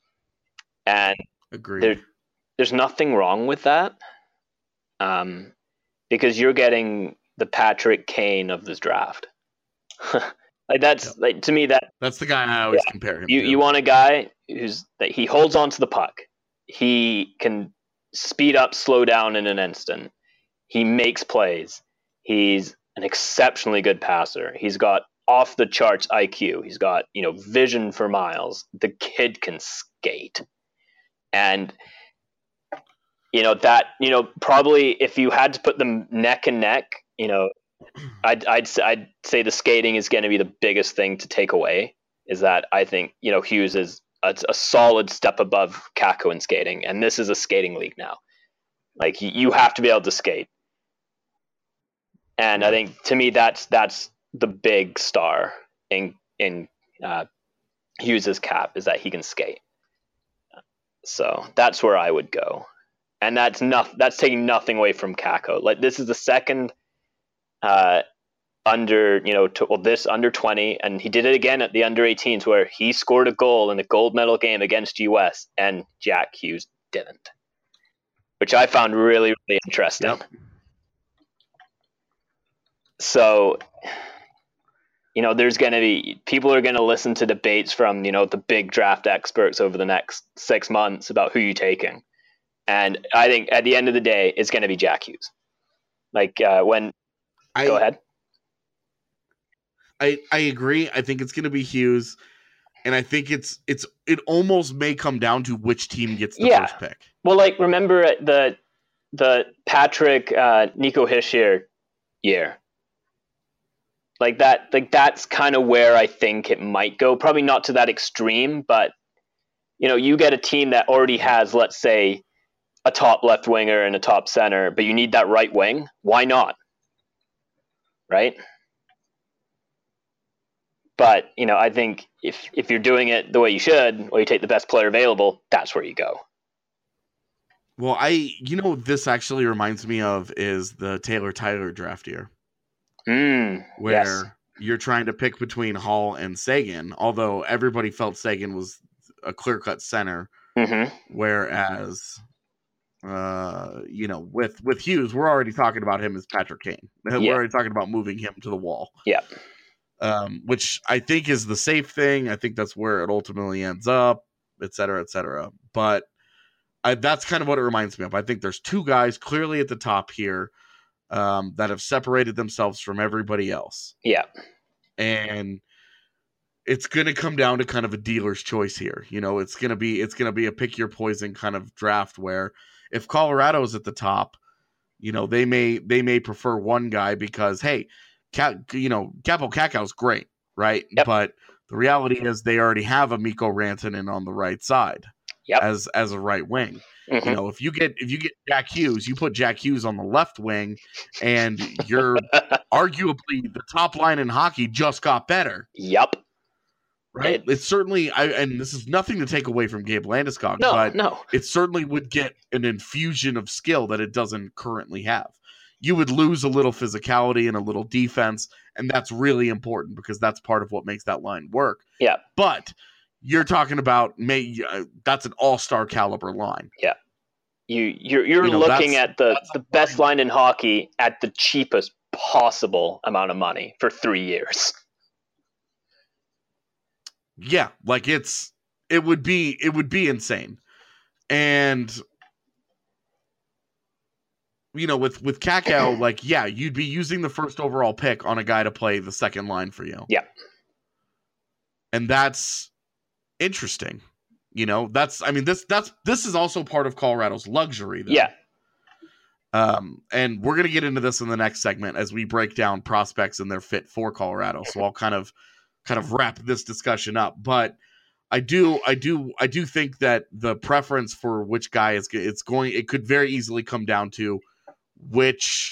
[SPEAKER 7] and
[SPEAKER 6] Agreed.
[SPEAKER 7] there, there's nothing wrong with that, um, because you're getting the Patrick Kane of this draft. Like that's
[SPEAKER 6] Yep.
[SPEAKER 7] like to me that
[SPEAKER 6] That's the guy I always
[SPEAKER 7] Yeah.
[SPEAKER 6] compare him
[SPEAKER 7] you
[SPEAKER 6] to.
[SPEAKER 7] you want a guy who's that he holds on to the puck. He can speed up, slow down in an instant. He makes plays. He's an exceptionally good passer. He's got off the charts I Q. He's got, you know, vision for miles. The kid can skate. And you know that, you know, probably if you had to put them neck and neck, you know, I'd I'd I'd say the skating is going to be the biggest thing to take away. Is that I think, you know, Hughes is a, a solid step above Kakao in skating, and this is a skating league now. Like you- you have to be able to skate, and I think to me that's that's the big star in in uh, Hughes's cap is that he can skate. So that's where I would go, and that's not that's taking nothing away from Kakao. Like this is the second. Uh, under you know to, well, this under twenty, and he did it again at the under eighteens where he scored a goal in a gold medal game against U S and Jack Hughes didn't, which I found really really interesting.
[SPEAKER 6] Yep.
[SPEAKER 7] So you know there's going to be people are going to listen to debates from you know the big draft experts over the next six months about who you're taking, and I think at the end of the day it's going to be Jack Hughes. Like uh, when
[SPEAKER 6] I,
[SPEAKER 7] go ahead.
[SPEAKER 6] I, I agree. I think it's going to be Hughes, and I think it's it's it almost may come down to which team gets the
[SPEAKER 7] Yeah.
[SPEAKER 6] first pick.
[SPEAKER 7] Well, like remember the the Patrick uh, Nico Hischier year, like that. Like that's kind of where I think it might go. Probably not to that extreme, but you know, you get a team that already has, let's say, a top left winger and a top center, but you need that right wing. Why not? Right. But, you know, I think if if you're doing it the way you should, or you take the best player available, that's where you go.
[SPEAKER 6] Well, I, you know, this actually reminds me of is the Taylor Tyler draft year,
[SPEAKER 7] Mm,
[SPEAKER 6] where
[SPEAKER 7] yes.
[SPEAKER 6] you're trying to pick between Hall and Sagan, although everybody felt Sagan was a clear-cut center,
[SPEAKER 7] Mm-hmm.
[SPEAKER 6] whereas, uh, you know, with, with Hughes, we're already talking about him as Patrick Kane. We're
[SPEAKER 7] Yeah.
[SPEAKER 6] already talking about moving him to the wall.
[SPEAKER 7] Yeah.
[SPEAKER 6] Um, which I think is the safe thing. I think that's where it ultimately ends up, et cetera, et cetera. But I, that's kind of what it reminds me of. I think there's two guys clearly at the top here um, that have separated themselves from everybody else.
[SPEAKER 7] Yeah.
[SPEAKER 6] And it's going to come down to kind of a dealer's choice here. You know, it's going to be, it's going to be a pick your poison kind of draft where if Colorado's at the top, you know, they may, they may prefer one guy because, hey, Cat, you know, Kaapo Kakko's great, right?
[SPEAKER 7] Yep.
[SPEAKER 6] But the reality is they already have a Mikko Rantanen on the right side
[SPEAKER 7] Yep.
[SPEAKER 6] as as a right wing.
[SPEAKER 7] Mhm.
[SPEAKER 6] You know, if you get if you get Jack Hughes, you put Jack Hughes on the left wing, and you're arguably the top line in hockey just got better,
[SPEAKER 7] Yep.
[SPEAKER 6] right?
[SPEAKER 7] It-
[SPEAKER 6] it's certainly, I and this is nothing to take away from Gabe Landeskog,
[SPEAKER 7] No,
[SPEAKER 6] but
[SPEAKER 7] no.
[SPEAKER 6] it certainly would get an infusion of skill that it doesn't currently have. You would lose a little physicality and a little defense, and that's really important because that's part of what makes that line work.
[SPEAKER 7] Yeah.
[SPEAKER 6] But you're talking about may uh, that's an all-star caliber line.
[SPEAKER 7] You you're you're
[SPEAKER 6] You know,
[SPEAKER 7] looking
[SPEAKER 6] that's-
[SPEAKER 7] at the,
[SPEAKER 6] that's
[SPEAKER 7] the
[SPEAKER 6] a
[SPEAKER 7] best
[SPEAKER 6] line.
[SPEAKER 7] line in hockey at the cheapest possible amount of money for three years.
[SPEAKER 6] Yeah, like it's it would be it would be insane. And you know, with with Kakko, like yeah, you'd be using the first overall pick on a guy to play the second line for you.
[SPEAKER 7] Yeah.
[SPEAKER 6] And that's interesting. You know, that's I mean this that's this is also part of Colorado's luxury though.
[SPEAKER 7] Yeah.
[SPEAKER 6] Um, and we're gonna get into this in the next segment as we break down prospects and their fit for Colorado. So I'll kind of kind of wrap this discussion up. But I do I do I do think that the preference for which guy is it's going it could very easily come down to which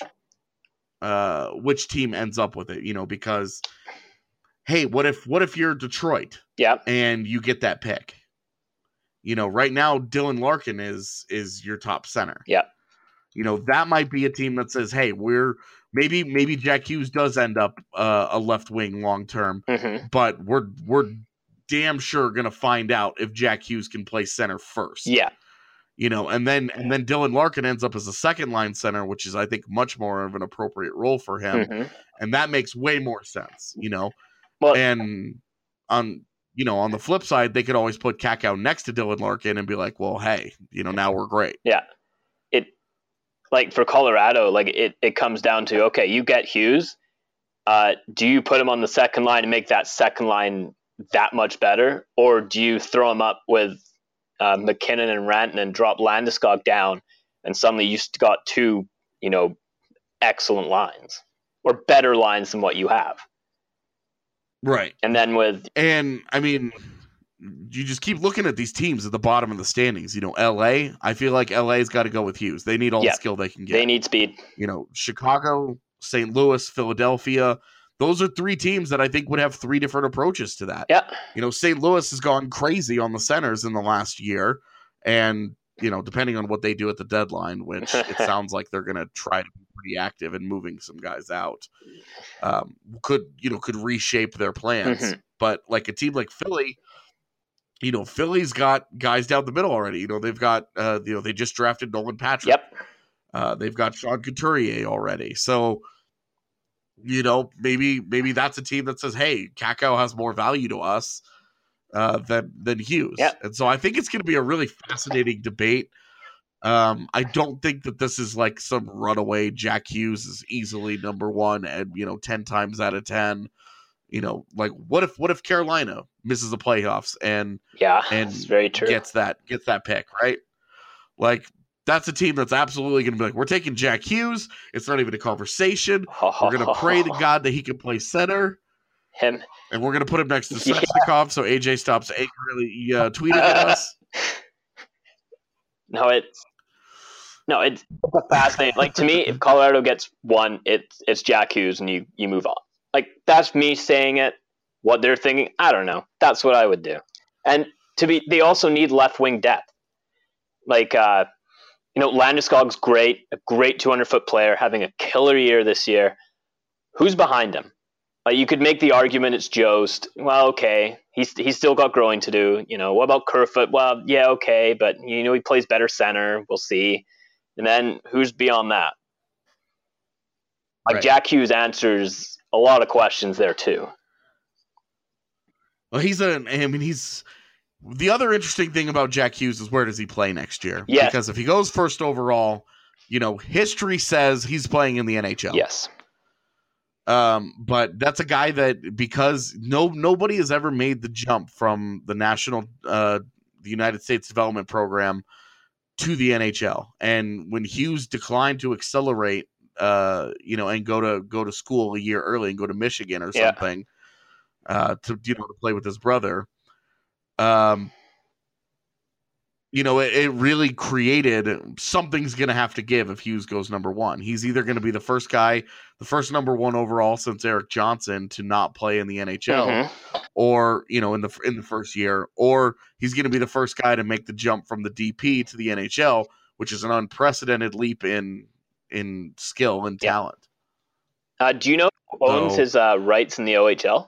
[SPEAKER 6] uh which team ends up with it, you know, because hey, what if what if you're Detroit
[SPEAKER 7] Yeah.
[SPEAKER 6] and you get that pick? You know, right now Dylan Larkin is is your top center.
[SPEAKER 7] Yeah.
[SPEAKER 6] You know, that might be a team that says, "Hey, we're maybe maybe Jack Hughes does end up uh, a left wing long term,
[SPEAKER 7] Mm-hmm.
[SPEAKER 6] but we're we're damn sure going to find out if Jack Hughes can play center first."
[SPEAKER 7] Yeah.
[SPEAKER 6] You know, and then and then Dylan Larkin ends up as a second line center, which is I think much more of an appropriate role for him,
[SPEAKER 7] Mhm.
[SPEAKER 6] and that makes way more sense. You know,
[SPEAKER 7] Well,
[SPEAKER 6] and on you know on the flip side, they could always put Kakko next to Dylan Larkin and be like, "Well, hey, you know, now we're great."
[SPEAKER 7] yeah. It like for Colorado, like it, it comes down to okay, you get Hughes. Uh, do you put him on the second line and make that second line that much better, or do you throw him up with uh, McKinnon and Rantanen and drop Landeskog down, and suddenly you st- got two, you know, excellent lines or better lines than what you have,
[SPEAKER 6] Right.
[SPEAKER 7] and then with
[SPEAKER 6] And I mean, you just keep looking at these teams at the bottom of the standings. You know, L A, I feel like L A's got to go with Hughes. They need all
[SPEAKER 7] Yeah.
[SPEAKER 6] the skill they can get.
[SPEAKER 7] they need speed.
[SPEAKER 6] you know, Chicago, Saint Louis, Philadelphia. Those are three teams that I think would have three different approaches to that.
[SPEAKER 7] Yeah,
[SPEAKER 6] You know, Saint Louis has gone crazy on the centers in the last year. And, you know, depending on what they do at the deadline, which it sounds like they're going to try to be pretty active in moving some guys out, um, could, you know, could reshape their plans.
[SPEAKER 7] Mhm.
[SPEAKER 6] But like a team like Philly, you know, Philly's got guys down the middle already. You know, they've got, uh, you know, they just drafted Nolan Patrick.
[SPEAKER 7] yep,
[SPEAKER 6] Uh, they've got Sean Couturier already. So, you know, maybe maybe that's a team that says, hey, Kakko has more value to us uh, than, than Hughes.
[SPEAKER 7] Yeah.
[SPEAKER 6] And so I think it's going to be a really fascinating debate. Um, I don't think that this is like some runaway Jack Hughes is easily number one and, you know, ten times out of ten. You know, like what if what if Carolina misses the playoffs and
[SPEAKER 7] yeah,
[SPEAKER 6] and
[SPEAKER 7] it's very true.
[SPEAKER 6] gets that gets that pick, right? Like that's a team that's absolutely going to be like, we're taking Jack Hughes. It's not even a conversation. We're going to pray to God that he can play center.
[SPEAKER 7] Him.
[SPEAKER 6] And we're going to put him next to Svechnikov yeah. so A J stops angrily uh, tweeting at us.
[SPEAKER 7] No, it's no, it's fascinating. Like to me, if Colorado gets one, it's it's Jack Hughes, and you you move on. Like that's me saying it. What they're thinking, I don't know. That's what I would do. And to be, they also need left wing depth. Like uh, you know, Landeskog's great, a great two hundred foot player, having a killer year this year. Who's behind him? Like you could make the argument it's Jost. Well, okay, he's he's still got growing to do. You know, what about Kerfoot? Well, yeah, okay, but you know he plays better center. We'll see. And then who's beyond that? Like right. Jack Hughes answers a lot of questions there too.
[SPEAKER 6] Well, he's a. I mean, he's the other interesting thing about Jack Hughes is where does he play next year?
[SPEAKER 7] Yes.
[SPEAKER 6] Because if he goes first overall, you know, history says he's playing in the N H L.
[SPEAKER 7] Yes.
[SPEAKER 6] Um, but that's a guy that because no nobody has ever made the jump from the national, uh, the United States Development Program to the N H L. And when Hughes declined to accelerate, uh, you know, and go to go to school a year early and go to Michigan or something, yeah. uh, to you know to play with his brother, um. You know, it, it really created something's going to have to give if Hughes goes number one. He's either going to be the first guy, the first number one overall since Eric Johnson to not play in the N H L, mm-hmm. or you know, in the in the first year, or he's going to be the first guy to make the jump from the D P to the N H L, which is an unprecedented leap in in skill and talent.
[SPEAKER 7] Yeah. Uh, do you know who owns so, his uh, rights in the O H L?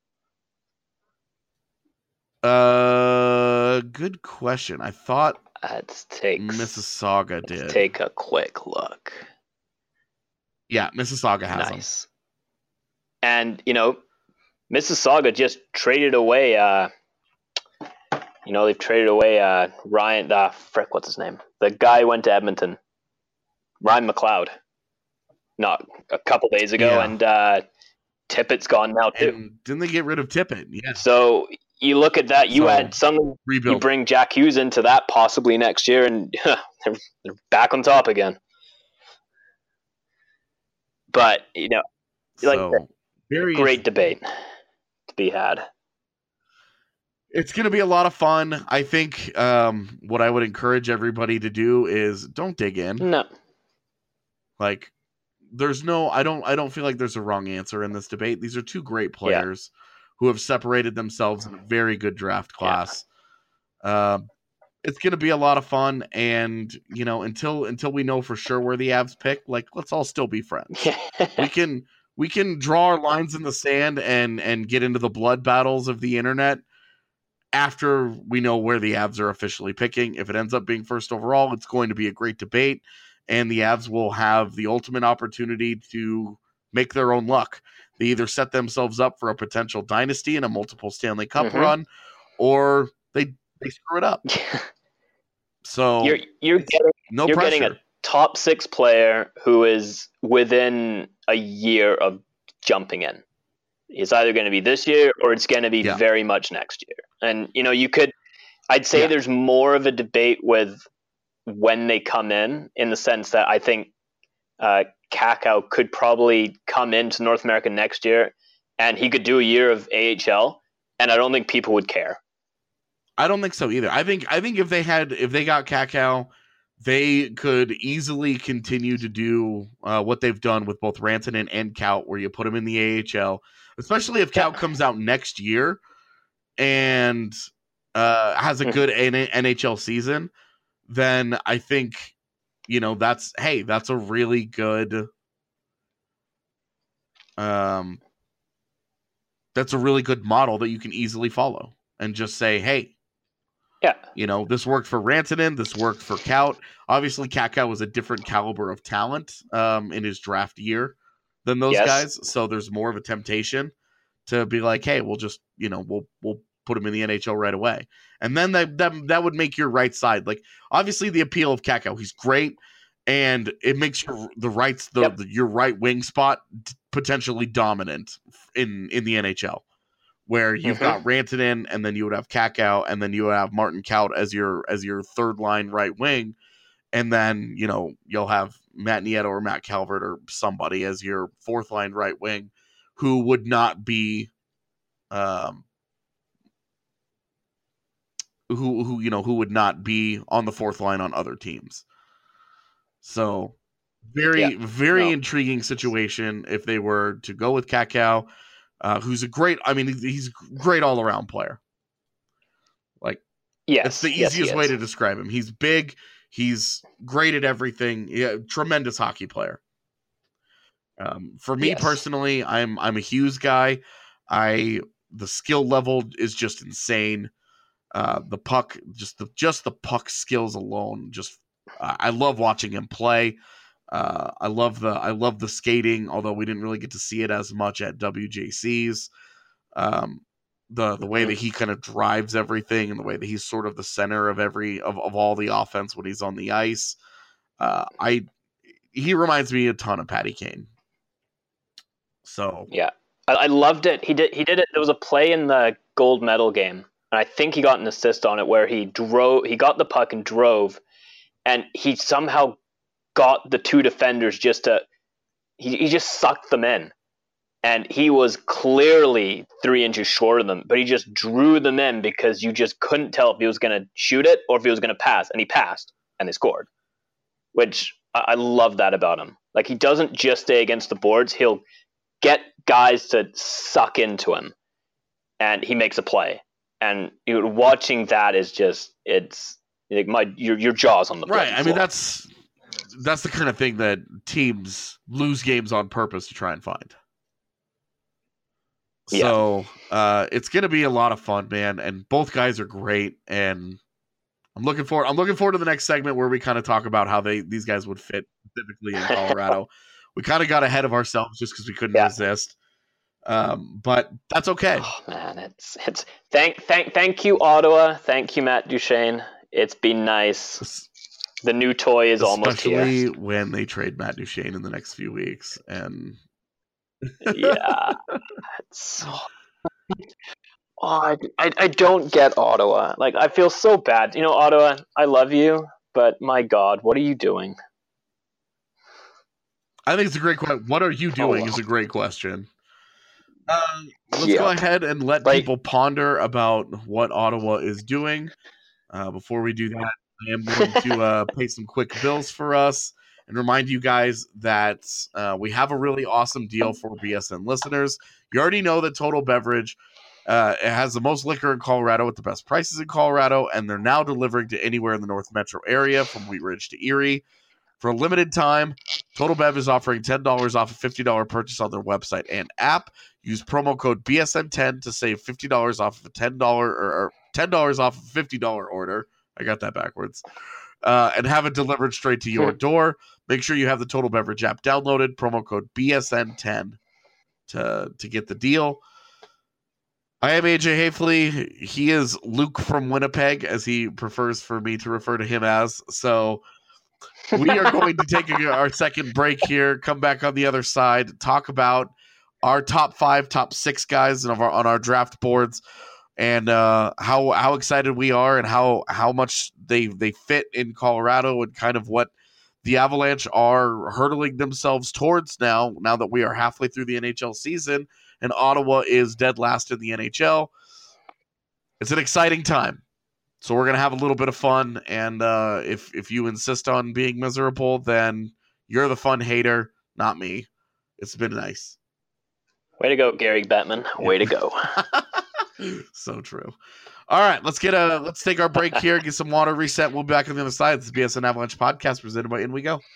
[SPEAKER 6] Uh, good question. I thought
[SPEAKER 7] let's take
[SPEAKER 6] Mississauga did.
[SPEAKER 7] Let's take a quick look.
[SPEAKER 6] Yeah, Mississauga has
[SPEAKER 7] nice. Them. And you know, Mississauga just traded away. Uh, you know, they've traded away uh Ryan. Uh, frick, what's his name? The guy who went to Edmonton. Ryan McLeod. Not a couple days ago, yeah. and uh, Tippett's gone now too.
[SPEAKER 6] And didn't they get rid of Tippett? Yeah.
[SPEAKER 7] So. You look at that, you so, add some,
[SPEAKER 6] rebuild.
[SPEAKER 7] You bring Jack Hughes into that possibly next year, and they're, they're back on top again. But, you know,
[SPEAKER 6] so,
[SPEAKER 7] like very great debate to be had.
[SPEAKER 6] It's going to be a lot of fun. I think um, what I would encourage everybody to do is don't dig in.
[SPEAKER 7] No.
[SPEAKER 6] Like, there's no, I don't, I don't feel like there's a wrong answer in this debate. These are two great players. Yeah. Who have separated themselves in a very good draft class. Yeah. Um, it's going to be a lot of fun, and you know, until until we know for sure where the Avs pick, like let's all still be friends. we can we can draw our lines in the sand and and get into the blood battles of the internet after we know where the Avs are officially picking. If it ends up being first overall, it's going to be a great debate, and the Avs will have the ultimate opportunity to make their own luck. They either set themselves up for a potential dynasty and a multiple Stanley Cup mm-hmm. run, or they they screw it up. So
[SPEAKER 7] you're you're getting
[SPEAKER 6] no
[SPEAKER 7] you're
[SPEAKER 6] pressure.
[SPEAKER 7] getting a top six player who is within a year of jumping in. It's either going to be this year or it's going to be yeah. very much next year. And you know, you could, I'd say yeah. there's more of a debate with when they come in, in the sense that I think. Uh, Kakao could probably come into North America next year and he could do a year of A H L and I don't think people would care.
[SPEAKER 6] I don't think so either. I think I think if they had if they got Kakao, they could easily continue to do uh, what they've done with both Rantanen and Kaut, where you put them in the A H L, especially if Kaut yeah. comes out next year and uh, has a good N H L season, then I think You know, that's, hey, that's a really good, um, that's a really good model that you can easily follow and just say, hey,
[SPEAKER 7] yeah,
[SPEAKER 6] you know, this worked for Rantanen, this worked for Kaut. Obviously, Kakao was a different caliber of talent um, in his draft year than those yes. guys. So there's more of a temptation to be like, hey, we'll just, you know, we'll, we'll, put him in the N H L right away. And then that, that that would make your right side. Like, obviously the appeal of Kakao, he's great. and it makes your the rights the,
[SPEAKER 7] Yep.
[SPEAKER 6] the your right wing spot potentially dominant in in the N H L, where you've
[SPEAKER 7] Mm-hmm.
[SPEAKER 6] got Rantanen, and then you would have Kakao, and then you would have Martin Kaut as your as your third line right wing, and then you know you'll have Matt Nieto or Matt Calvert or somebody as your fourth line right wing, who would not be, um, who who you know who would not be on the fourth line on other teams. So very
[SPEAKER 7] Yeah.
[SPEAKER 6] very
[SPEAKER 7] No.
[SPEAKER 6] intriguing situation if they were to go with Kakao, uh, who's a great. I mean, he's a great all around player. Like
[SPEAKER 7] Yes.
[SPEAKER 6] it's the
[SPEAKER 7] yes, he
[SPEAKER 6] easiest way
[SPEAKER 7] is.
[SPEAKER 6] to describe him. He's big. He's great at everything. Yeah, tremendous hockey player. Um, for me
[SPEAKER 7] Yes.
[SPEAKER 6] personally, I'm I'm a Hughes guy. I the skill level is just insane. Uh, the puck, just the just the puck skills alone, just uh, I love watching him play. Uh, I love the I love the skating, although we didn't really get to see it as much at W J C's. Um, the the way
[SPEAKER 7] Mhm.
[SPEAKER 6] that he kind of drives everything, and the way that he's sort of the center of every of, of all the offense when he's on the ice. Uh, I he reminds me a ton of Patty Kane. So
[SPEAKER 7] Yeah, I, I loved it. He did. He did it. There was a play in the gold medal game, and I think he got an assist on it where he drove. He got the puck and drove, and he somehow got the two defenders just to. He he just sucked them in, and he was clearly three inches short of them, but he just drew them in because you just couldn't tell if he was going to shoot it or if he was going to pass, and he passed, and they scored. Which I, I love that about him. Like he doesn't just stay against the boards; he'll get guys to suck into him, and he makes a play. And you know, watching that is just it's like my your your jaws on the
[SPEAKER 6] right. I mean
[SPEAKER 7] floor.
[SPEAKER 6] that's that's the kind of thing that teams lose games on purpose to try and find.
[SPEAKER 7] Yeah.
[SPEAKER 6] So uh, it's going to be a lot of fun, man. And both guys are great, and I'm looking forward. I'm looking forward to the next segment where we kind of talk about how they these guys would fit specifically in Colorado. We kind of got ahead of ourselves just because we couldn't
[SPEAKER 7] Yeah.
[SPEAKER 6] resist, um, but that's okay.
[SPEAKER 7] Oh man, it's it's thank thank thank you Ottawa, thank you Matt Duchene. It's been nice. The new toy is almost
[SPEAKER 6] Especially
[SPEAKER 7] here.
[SPEAKER 6] when they trade Matt Duchene in the next few weeks, and
[SPEAKER 7] Yeah, it's so. Oh, I, I, I don't get Ottawa. Like, I feel so bad. You know, Ottawa, I love you, but my God, what are you doing?
[SPEAKER 6] I think it's a great question. What are you doing?
[SPEAKER 7] Oh, well.
[SPEAKER 6] Is a great question. Um, let's
[SPEAKER 7] Yeah.
[SPEAKER 6] go ahead and let
[SPEAKER 7] Like-
[SPEAKER 6] people ponder about what Ottawa is doing. Uh, before we do that, I am going to uh, pay some quick bills for us and remind you guys that uh, we have a really awesome deal for B S N listeners. You already know that Total Beverage uh, it has the most liquor in Colorado with the best prices in Colorado, and they're now delivering to anywhere in the North Metro area from Wheat Ridge to Erie. For a limited time, Total Bev is offering ten dollars off a fifty dollars purchase on their website and app. Use promo code B S N ten to save fifty dollars off of a ten dollars or, or ten dollars off of a fifty dollars order. I got that backwards. Uh, and have it delivered straight to your door. Make sure you have the Total Beverage app downloaded. Promo code B S N ten to, to get the deal. I am A J Hafley. He is Luke from Winnipeg, as he prefers for me to refer to him as. So we are going to take a, our second break here, come back on the other side, talk about our top five, top six guys on our, on our draft boards, and uh, how how excited we are, and how how much they they fit in Colorado, and kind of what the Avalanche are hurtling themselves towards now. Now that we are halfway through the N H L season, and Ottawa is dead last in the N H L, it's an exciting time. So we're gonna have a little bit of fun, and uh, if if you insist on being miserable, then you're the fun hater, not me. It's been nice.
[SPEAKER 7] Way to go, Gary Bettman. Way to go.
[SPEAKER 6] So true. All right, let's get a let's take our break here, get some water, reset. We'll be back on the other side. This is the B S N Avalanche podcast presented by In We Go.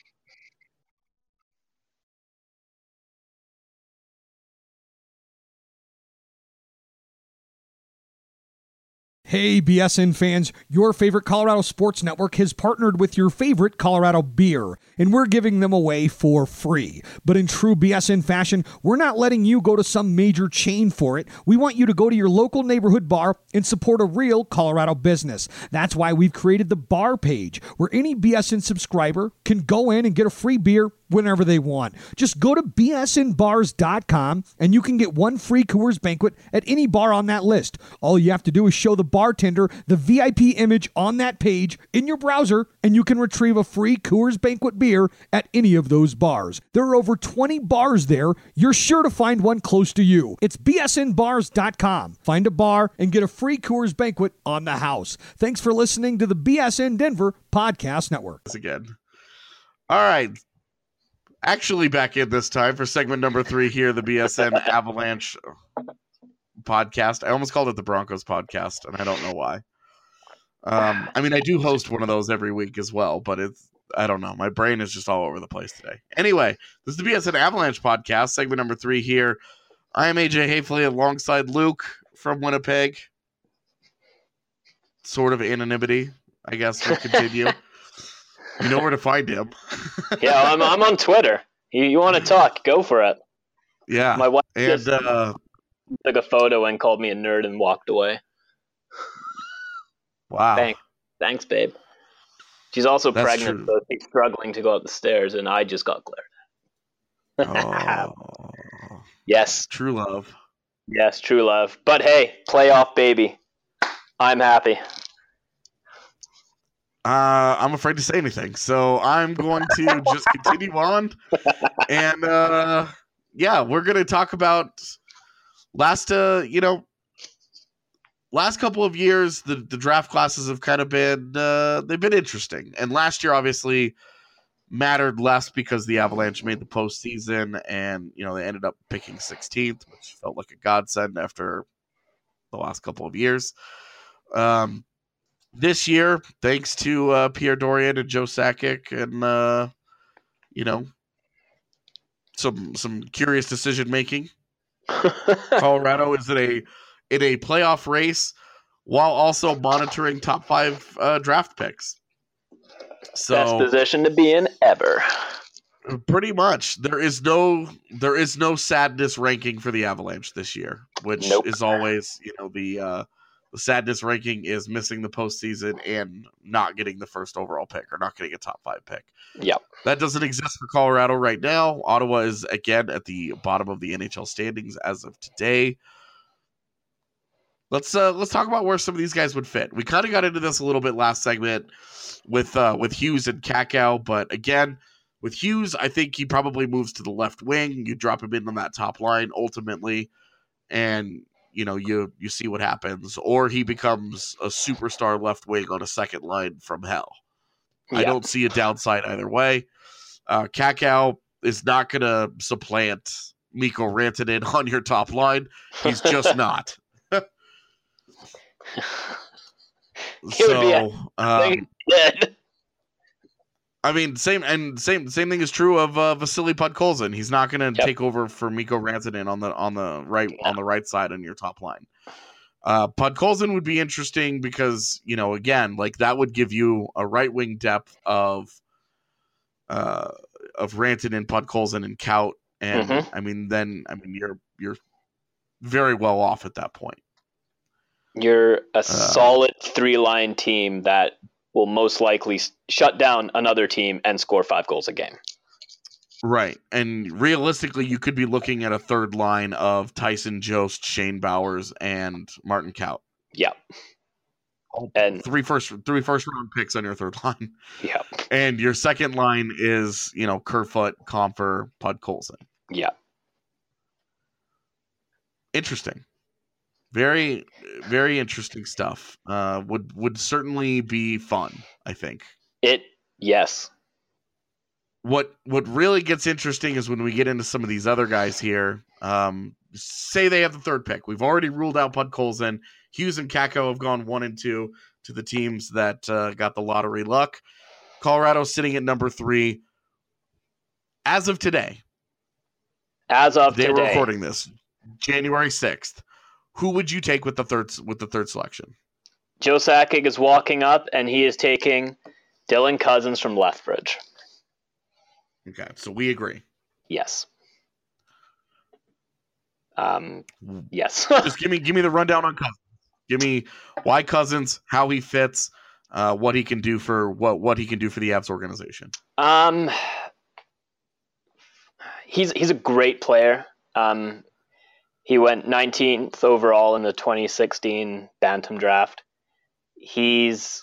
[SPEAKER 9] Hey, B S N fans, your favorite Colorado Sports Network has partnered with your favorite Colorado beer, and we're giving them away for free. But in true B S N fashion, we're not letting you go to some major chain for it. We want you to go to your local neighborhood bar and support a real Colorado business. That's why we've created the bar page, where any B S N subscriber can go in and get a free beer whenever they want. Just go to B S N bars dot com and you can get one free Coors Banquet at any bar on that list. All you have to do is show the bartender the V I P image on that page in your browser, and you can retrieve a free Coors Banquet beer at any of those bars. There are over twenty bars there. You're sure to find one close to you. It's B S N bars dot com. Find a bar and get a free Coors Banquet on the house. Thanks for listening to the B S N Denver Podcast Network.
[SPEAKER 6] Again. All right. Actually back in this time for segment number three here, the B S N Avalanche podcast. I almost called it the Broncos podcast, and I don't know why. Um, I mean, I do host one of those every week as well, but it's, I don't know. My brain is just all over the place today. Anyway, this is the B S N Avalanche podcast, segment number three here. I am A J Hafley alongside Luke from Winnipeg. Sort of anonymity, I guess, will continue. You know where to find him.
[SPEAKER 7] Yeah, I'm I'm on Twitter. You you want to talk? Go for it.
[SPEAKER 6] Yeah.
[SPEAKER 7] My wife
[SPEAKER 6] and
[SPEAKER 7] just
[SPEAKER 6] uh,
[SPEAKER 7] took a photo and called me a nerd and walked away.
[SPEAKER 6] Wow.
[SPEAKER 7] Thanks, thanks, babe. She's also
[SPEAKER 6] That's
[SPEAKER 7] pregnant,
[SPEAKER 6] true.
[SPEAKER 7] so she's struggling to go up the stairs, and I just got glared at.
[SPEAKER 6] Oh,
[SPEAKER 7] Yes,
[SPEAKER 6] true love.
[SPEAKER 7] yes, true love. But hey, playoff baby. I'm happy.
[SPEAKER 6] Uh, I'm afraid to say anything, so I'm going to just continue on. And uh, yeah, we're going to talk about last, uh, you know, last couple of years. The, the draft classes have kind of been uh, they've been interesting, and last year obviously mattered less because the Avalanche made the postseason, and you know they ended up picking sixteenth, which felt like a godsend after the last couple of years. Um. This year, thanks to uh, Pierre Dorian and Joe Sakic and, uh, you know, some some curious decision making, Colorado is in a in a playoff race while also monitoring top five uh, draft picks. So
[SPEAKER 7] Best position to be in ever.
[SPEAKER 6] pretty much, there is no there is no sadness ranking for the Avalanche this year, which
[SPEAKER 7] Nope.
[SPEAKER 6] is always, you know, the uh, the sadness ranking is missing the postseason and not getting the first overall pick or not getting a top five pick.
[SPEAKER 7] Yep.
[SPEAKER 6] That doesn't exist for Colorado right now. Ottawa is again at the bottom of the N H L standings as of today. Let's uh, let's talk about where some of these guys would fit. We kind of got into this a little bit last segment with uh, with Hughes and Kakao, but again, with Hughes, I think he probably moves to the left wing. You drop him in on that top line ultimately, and you know, you you see what happens, or he becomes a superstar left wing on a second line from hell.
[SPEAKER 7] Yeah.
[SPEAKER 6] I don't see a downside either way. Uh, Kakao is not going to supplant Mikko Rantanen on your top line. He's just not.
[SPEAKER 7] He would be a-
[SPEAKER 6] so, um,
[SPEAKER 7] Dead.
[SPEAKER 6] I mean, same and same same thing is true of uh, Vasily Podkolzin. He's not going to
[SPEAKER 7] Yep.
[SPEAKER 6] take over for Mikko Rantanen on the on the right
[SPEAKER 7] Yeah.
[SPEAKER 6] on the right side on your top line. Uh, Podkolzin would be interesting because, you know, again, like that would give you a right wing depth of uh, of Rantanen, Podkolzin, and Kaut, and
[SPEAKER 7] Mhm.
[SPEAKER 6] I mean, then I mean, you're you're very well off at that point.
[SPEAKER 7] You're
[SPEAKER 6] Uh,
[SPEAKER 7] a solid three-line team that will most likely s- shut down another team and score five goals a game.
[SPEAKER 6] Right. And realistically, you could be looking at a third line of Tyson Jost, Shane Bowers, and Martin Kaut.
[SPEAKER 7] Yeah. And
[SPEAKER 6] Three first three first round picks on your third line.
[SPEAKER 7] yeah,
[SPEAKER 6] And your second line is, you know, Kerfoot, Comfer, Podkolzin.
[SPEAKER 7] yeah.
[SPEAKER 6] Interesting. Very, very interesting stuff. Uh, would would certainly be fun, I think.
[SPEAKER 7] It yes.
[SPEAKER 6] What what really gets interesting is when we get into some of these other guys here. Um, say they have the third pick. We've already ruled out Podkolzin. Hughes and Kakao have gone one and two to the teams that uh, got the lottery luck. Colorado sitting at number three. As of today,
[SPEAKER 7] As of
[SPEAKER 6] they were
[SPEAKER 7] today,
[SPEAKER 6] recording this January sixth. Who would you take with the third with the third selection?
[SPEAKER 7] Joe Sakic is walking up, and he is taking Dylan Cousins from Lethbridge.
[SPEAKER 6] Okay, so we agree.
[SPEAKER 7] Yes. Um, yes.
[SPEAKER 6] Just give me give me the rundown on Cousins. Give me why Cousins, how he fits, uh, what he can do for what what he can do for the Avs organization.
[SPEAKER 7] Um, he's he's a great player. Um, he went nineteenth overall in the twenty sixteen Bantam draft. He's,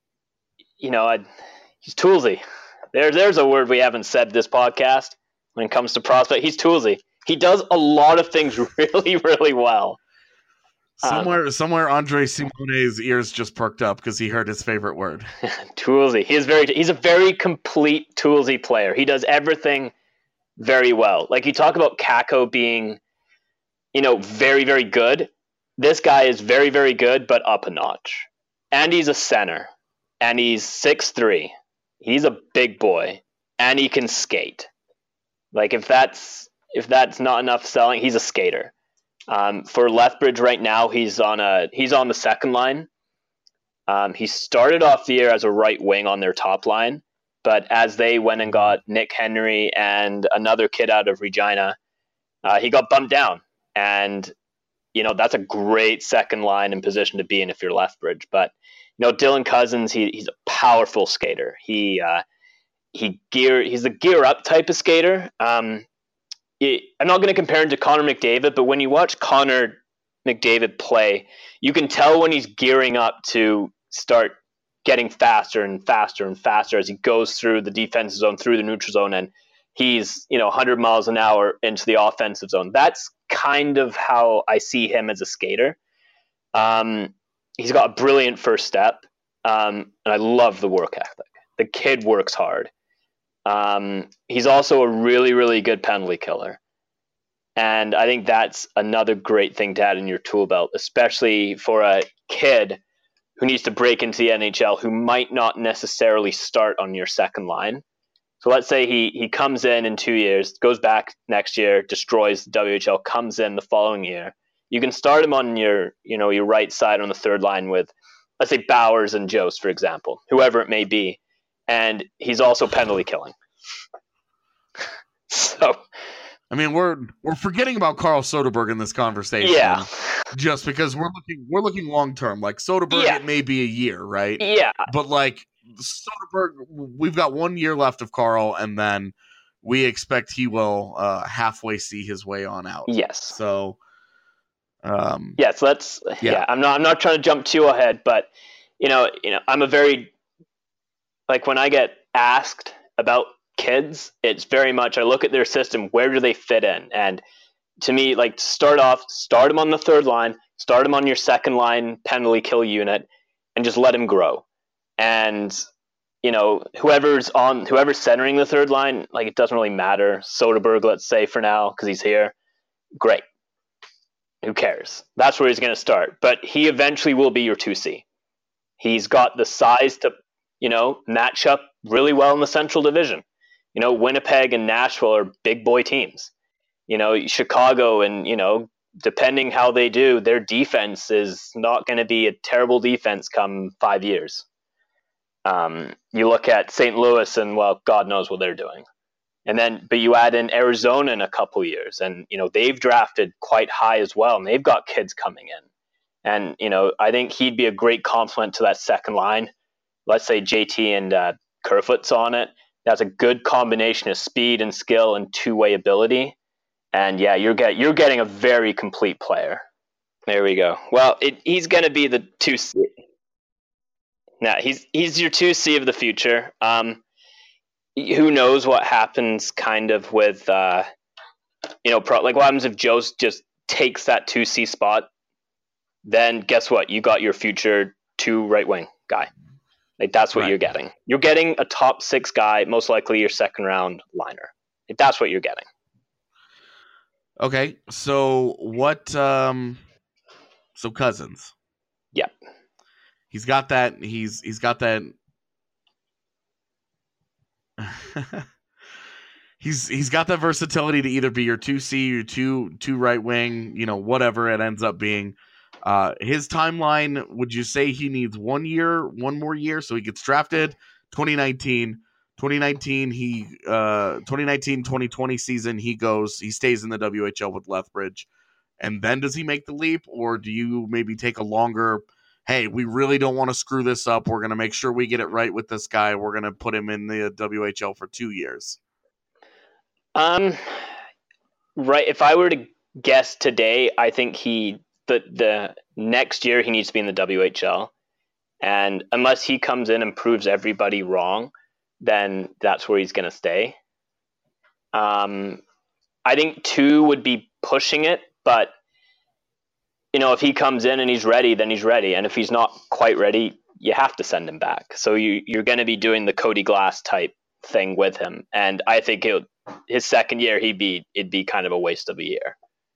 [SPEAKER 7] you know, I, he's toolsy. There, there's a word we haven't said this podcast when it comes to prospect. He's toolsy. He does a lot of things really, really well.
[SPEAKER 6] Somewhere,
[SPEAKER 7] um,
[SPEAKER 6] somewhere, Andre Simone's ears just perked up because he heard his favorite word.
[SPEAKER 7] Toolsy. He is very. He's a very complete toolsy player. He does everything very well. Like you talk about Kakko being, you know, very, very good. This guy is very, very good, but up a notch. And he's a center, and he's six three. He's a big boy, and he can skate. Like if that's if that's not enough selling, he's a skater. Um, for Lethbridge right now, he's on a he's on the second line. Um, he started off the year as a right wing on their top line, but as they went and got Nick Henry and another kid out of Regina, uh, he got bumped down. And you know that's a great second line and position to be in if you're Lethbridge. But you know Dylan Cousins, he he's a powerful skater. He uh, he gear he's a gear up type of skater. Um, it, I'm not going to compare him to Connor McDavid, but when you watch Connor McDavid play, you can tell when he's gearing up to start getting faster and faster and faster as he goes through the defensive zone, through the neutral zone, and he's, you know, one hundred miles an hour into the offensive zone. That's kind of how I see him as a skater. Um, he's got a brilliant first step, um, and I love the work ethic. The kid works hard. Um, he's also a really, really good penalty killer. And I think that's another great thing to add in your tool belt, especially for a kid who needs to break into the N H L who might not necessarily start on your second line. So let's say he he comes in in two years, goes back next year, destroys the W H L, comes in the following year. You can start him on your, you know, your right side on the third line with, let's say, Bowers and Jost, for example, whoever it may be. And he's also penalty killing. So,
[SPEAKER 6] I mean, we're we're forgetting about Carl Soderberg in this conversation.
[SPEAKER 7] Yeah.
[SPEAKER 6] Just because we're looking we're looking long term. Like Soderberg,
[SPEAKER 7] yeah.
[SPEAKER 6] it may be a year, right?
[SPEAKER 7] Yeah.
[SPEAKER 6] But like Soderberg, we've got one year left of Carl, and then we expect he will uh, halfway see his way on out.
[SPEAKER 7] Yes.
[SPEAKER 6] So, um,
[SPEAKER 7] yes, let's. Yeah. yeah, I'm not. I'm not trying to jump too ahead, but you know, you know, I'm a very like when I get asked about kids, it's very much I look at their system. Where do they fit in? And to me, like start off, start them on the third line, start them on your second line penalty kill unit, and just let him grow. And you know, whoever's on, whoever's centering the third line, like it doesn't really matter. Soderberg, let's say for now, because he's here, great. Who cares? That's where he's going to start. But he eventually will be your two C. He's got the size to, you know, match up really well in the Central Division. You know, Winnipeg and Nashville are big boy teams. You know, Chicago and, you know, depending how they do, their defense is not going to be a terrible defense come five years. Um, you look at Saint Louis and, well, God knows what they're doing. And then, but you add in Arizona in a couple years and, you know, they've drafted quite high as well. And they've got kids coming in. And, you know, I think he'd be a great complement to that second line. Let's say J T and uh, Kerfoot's on it. That's a good combination of speed and skill and two-way ability. And yeah, you're get you're getting a very complete player. There we go. Well, it, he's going to be the two C. Now he's he's your two C of the future. Um, who knows what happens, kind of with uh, you know, pro, like what happens if Joe just takes that two C spot? Then guess what? You got your future two right wing guy. Like that's what right. you're getting. You're getting a top six guy, most likely your second round liner. Like, that's what you're getting.
[SPEAKER 6] Okay, so what? Um, so Cousins.
[SPEAKER 7] Yep.
[SPEAKER 6] He's got that. He's he's got that. he's he's got that versatility to either be your two C, your two two right wing, you know, whatever it ends up being. Uh, his timeline, would you say he needs one year, one more year, so he gets drafted? twenty nineteen, twenty nineteen, he uh, twenty nineteen twenty twenty season, he goes, he stays in the W H L with Lethbridge, and then does he make the leap, or do you maybe take a longer? Hey, we really don't want to screw this up. We're going to make sure we get it right with this guy. We're going to put him in the W H L for two years.
[SPEAKER 7] Um, right. If I were to guess today, I think he the the next year he needs to be in the W H L, and unless he comes in and proves everybody wrong, then that's where he's going to stay. Um, I think two would be pushing it, but you know, if he comes in and he's ready, then he's ready, and if he's not quite ready, you have to send him back. So you you're going to be doing the Cody Glass type thing with him, and I think he'll. His second year, he'd be it'd be kind of a waste of a year.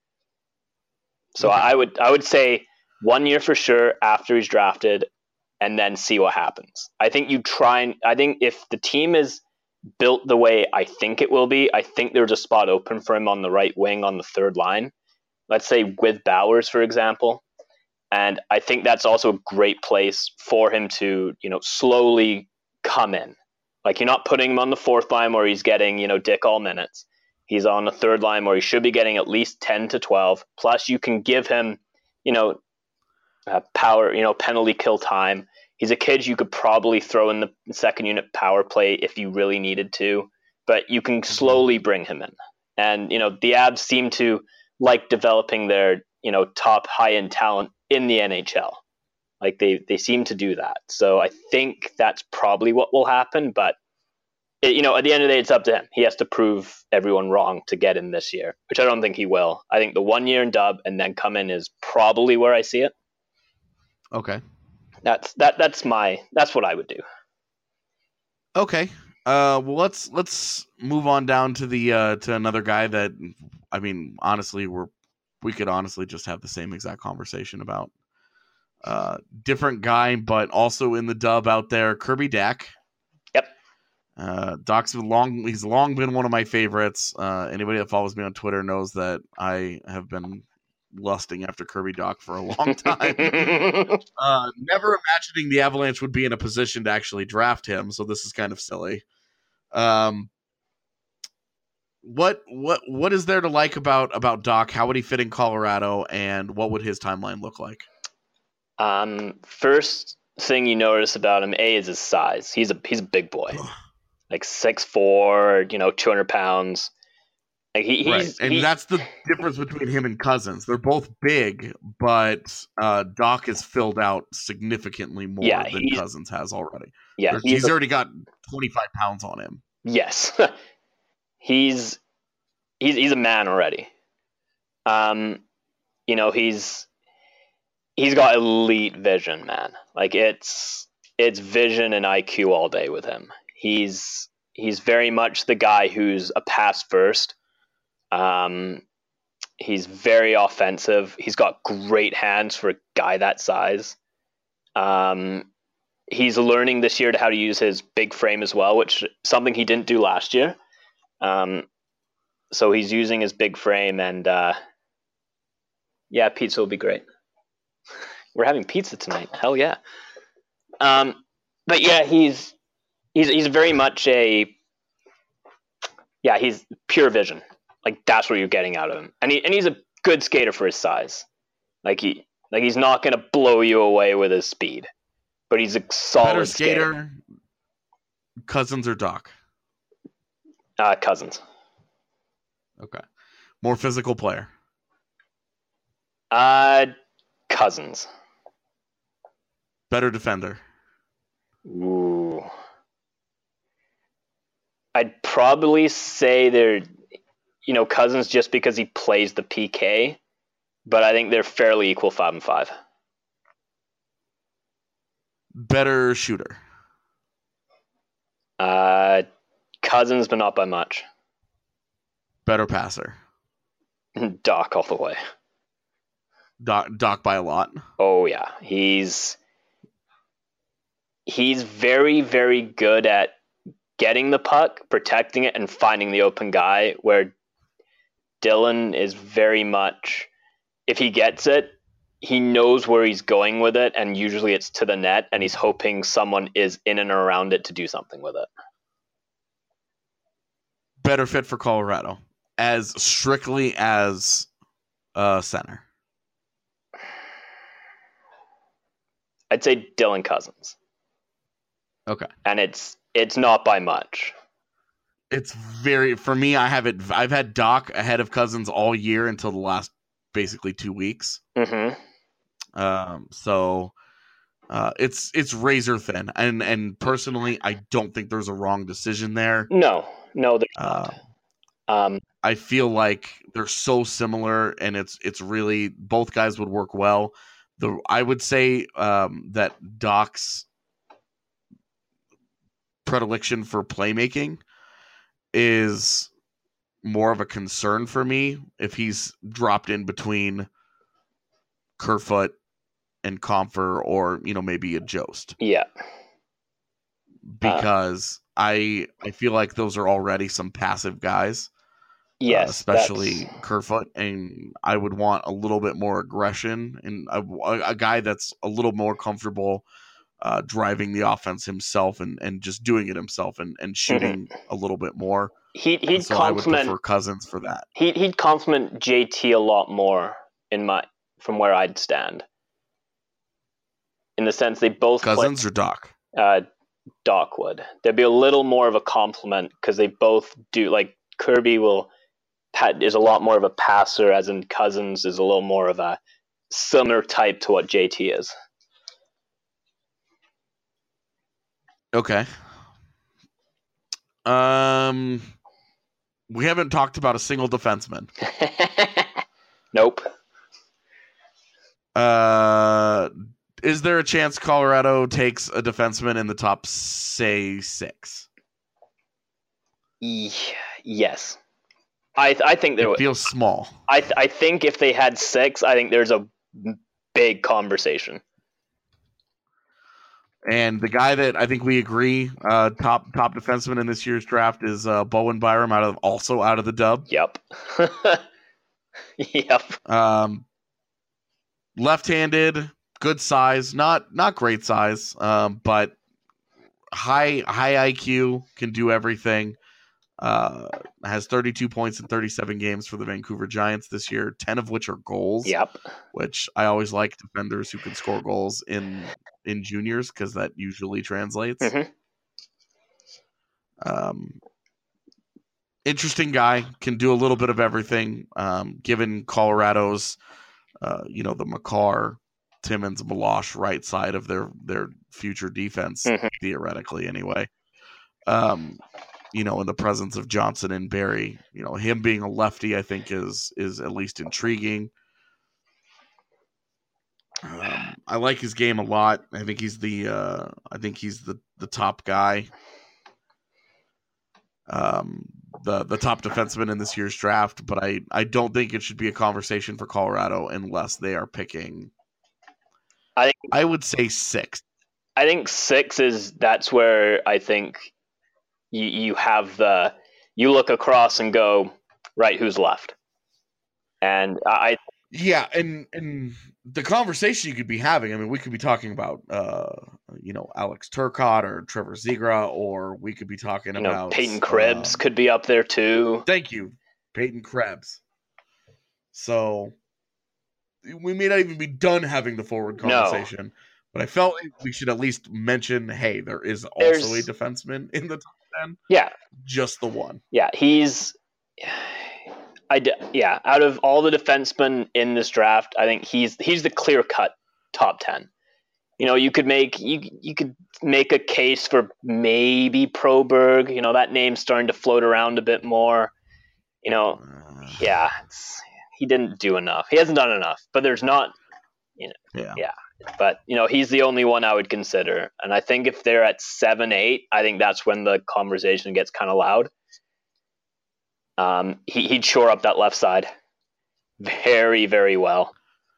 [SPEAKER 7] So okay. I would I would say one year for sure after he's drafted, and then see what happens. I think you try and I think if the team is built the way I think it will be, I think there's a spot open for him on the right wing on the third line. Let's say with Bowers, for example, and I think that's also a great place for him to you know slowly come in. Like, you're not putting him on the fourth line where he's getting, you know, dick all minutes. He's on the third line where he should be getting at least ten to twelve. Plus, you can give him, you know, uh, power, you know, penalty kill time. He's a kid you could probably throw in the second unit power play if you really needed to. But you can slowly bring him in. And, you know, the Avs seem to like developing their, you know, top high-end talent in the N H L. Like they, they seem to do that. So I think that's probably what will happen. But, it, you know, at the end of the day, it's up to him. He has to prove everyone wrong to get in this year, which I don't think he will. I think the one year in dub and then come in is probably where I see it.
[SPEAKER 6] Okay.
[SPEAKER 7] That's that. That's my. That's what I would do.
[SPEAKER 6] Okay. Uh, well, let's let's move on down to the uh, to another guy that, I mean, honestly, we're we could honestly just have the same exact conversation about. Uh, different guy, but also in the dub out there, Kirby Dach.
[SPEAKER 7] Yep.
[SPEAKER 6] Uh, Doc's long. He's long been one of my favorites. Uh, anybody that follows me on Twitter knows that I have been lusting after Kirby Dach for a long time. uh, never imagining the Avalanche would be in a position to actually draft him, so this is kind of silly. Um, what what what is there to like about about Dach? How would he fit in Colorado, and what would his timeline look like?
[SPEAKER 7] Um, first thing you notice about him, A, is his size. He's a he's a big boy, like six four, you know, two hundred pounds. Like he, he's,
[SPEAKER 6] right, and
[SPEAKER 7] he,
[SPEAKER 6] that's the difference between him and Cousins. They're both big, but uh, Dach is filled out significantly more
[SPEAKER 7] yeah,
[SPEAKER 6] than Cousins has already.
[SPEAKER 7] Yeah,
[SPEAKER 6] he's, he's a, already got twenty-five pounds on him.
[SPEAKER 7] Yes, he's he's he's a man already. Um, you know, he's. He's got elite vision, man. Like it's it's vision and I Q all day with him. He's he's very much the guy who's a pass first. Um, he's very offensive. He's got great hands for a guy that size. Um, he's learning this year to how to use his big frame as well, which something he didn't do last year. Um, so he's using his big frame, and uh, yeah, pizza will be great. We're having pizza tonight. Hell yeah. Um, but yeah, he's he's he's very much a yeah, he's pure vision. Like that's what you're getting out of him. And he and he's a good skater for his size. Like he like he's not gonna blow you away with his speed. But he's a solid
[SPEAKER 6] Better skater,
[SPEAKER 7] skater.
[SPEAKER 6] Cousins or Dach?
[SPEAKER 7] Uh Cousins.
[SPEAKER 6] Okay. More physical player.
[SPEAKER 7] Uh Cousins.
[SPEAKER 6] Better defender.
[SPEAKER 7] Ooh. I'd probably say they're, you know, Cousins just because he plays the P K, but I think they're fairly equal five and five.
[SPEAKER 6] Better shooter.
[SPEAKER 7] Uh, Cousins, but not by much.
[SPEAKER 6] Better passer.
[SPEAKER 7] Dach all the way.
[SPEAKER 6] Dach, Dach by a lot.
[SPEAKER 7] Oh yeah, he's he's very very good at getting the puck, protecting it, and finding the open guy. Where Dylan is very much, if he gets it, he knows where he's going with it, and usually it's to the net, and he's hoping someone is in and around it to do something with it.
[SPEAKER 6] Better fit for Colorado as strictly as uh, center.
[SPEAKER 7] I'd say Dylan Cousins.
[SPEAKER 6] Okay.
[SPEAKER 7] And it's it's not by much.
[SPEAKER 6] It's very, for me, I have it, I've had Doc ahead of Cousins all year until the last basically two weeks.
[SPEAKER 7] Mm-hmm.
[SPEAKER 6] Um, so uh, it's it's razor thin. And, and personally, I don't think there's a wrong decision there.
[SPEAKER 7] No, no, there's
[SPEAKER 6] uh,
[SPEAKER 7] not. Um,
[SPEAKER 6] I feel like they're so similar, and it's it's really, both guys would work well. The I would say um, that Doc's predilection for playmaking is more of a concern for me if he's dropped in between Kerfoot and Compher, or, you know, maybe a Jost.
[SPEAKER 7] Yeah.
[SPEAKER 6] Because uh, I I feel like those are already some passive guys.
[SPEAKER 7] Yes.
[SPEAKER 6] Uh, especially that's... Kerfoot, and I would want a little bit more aggression, and a, a guy that's a little more comfortable Uh, driving the offense himself and, and just doing it himself and, and shooting mm-hmm. a little bit more.
[SPEAKER 7] He, he'd
[SPEAKER 6] so
[SPEAKER 7] compliment
[SPEAKER 6] I would prefer Cousins for that.
[SPEAKER 7] He, he'd compliment J T a lot more in my from where I'd stand. In the sense they both
[SPEAKER 6] Cousins
[SPEAKER 7] play,
[SPEAKER 6] or Doc?
[SPEAKER 7] Uh, Doc would. There'd be a little more of a compliment because they both do. Like Kirby will is a lot more of a passer, as in Cousins is a little more of a similar type to what J T is.
[SPEAKER 6] Okay. Um, we haven't talked about a single defenseman.
[SPEAKER 7] Nope.
[SPEAKER 6] Uh, is there a chance Colorado takes a defenseman in the top, say, six?
[SPEAKER 7] Yes. I I think there
[SPEAKER 6] it feels small.
[SPEAKER 7] I th- I think if they had six, I think there's a big conversation.
[SPEAKER 6] And the guy that I think we agree uh, top top defenseman in this year's draft is uh, Bowen Byram, out of also out of the Dub.
[SPEAKER 7] Yep. yep.
[SPEAKER 6] Um, left-handed, good size, not not great size, um, but high high I Q, can do everything. Uh, has thirty-two points in thirty-seven games for the Vancouver Giants this year, ten of which are goals.
[SPEAKER 7] Yep.
[SPEAKER 6] Which I always like defenders who can score goals in in juniors, because that usually translates.
[SPEAKER 7] Mm-hmm.
[SPEAKER 6] Um, interesting guy, can do a little bit of everything. Um, given Colorado's, uh, you know, the Makar, Timmins, Milosh right side of their their future defense, mm-hmm. theoretically anyway. Um, you know, in the presence of Johnson and Barry, you know, him being a lefty, I think is is at least intriguing. Um, I like his game a lot. I think he's the uh, I think he's the, the top guy, um, the the top defenseman in this year's draft. But I, I don't think it should be a conversation for Colorado unless they are picking.
[SPEAKER 7] I think,
[SPEAKER 6] I would say six.
[SPEAKER 7] I think six is that's where I think you you have the you look across and go, right, who's left, and I.
[SPEAKER 6] Yeah, and and the conversation you could be having, I mean, we could be talking about, uh, you know, Alex Turcotte or Trevor Zegras, or we could be talking
[SPEAKER 7] you
[SPEAKER 6] about...
[SPEAKER 7] Know, Peyton Krebs uh, could be up there, too.
[SPEAKER 6] Thank you, Peyton Krebs. So, we may not even be done having the forward conversation, no. but I felt we should at least mention, hey, there is also There's... a defenseman in the top ten.
[SPEAKER 7] Yeah.
[SPEAKER 6] Just the one.
[SPEAKER 7] Yeah, he's... I d- yeah, out of all the defensemen in this draft, I think he's he's the clear-cut top ten. You know, you could make you you could make a case for maybe Proberg. You know, that name's starting to float around a bit more. You know, uh, yeah, it's, he didn't do enough. He hasn't done enough. But there's not, you know,
[SPEAKER 6] yeah.
[SPEAKER 7] yeah. But you know, he's the only one I would consider. And I think if they're at seven, eight, I think that's when the conversation gets kind of loud. Um, he, he'd shore up that left side very, very well.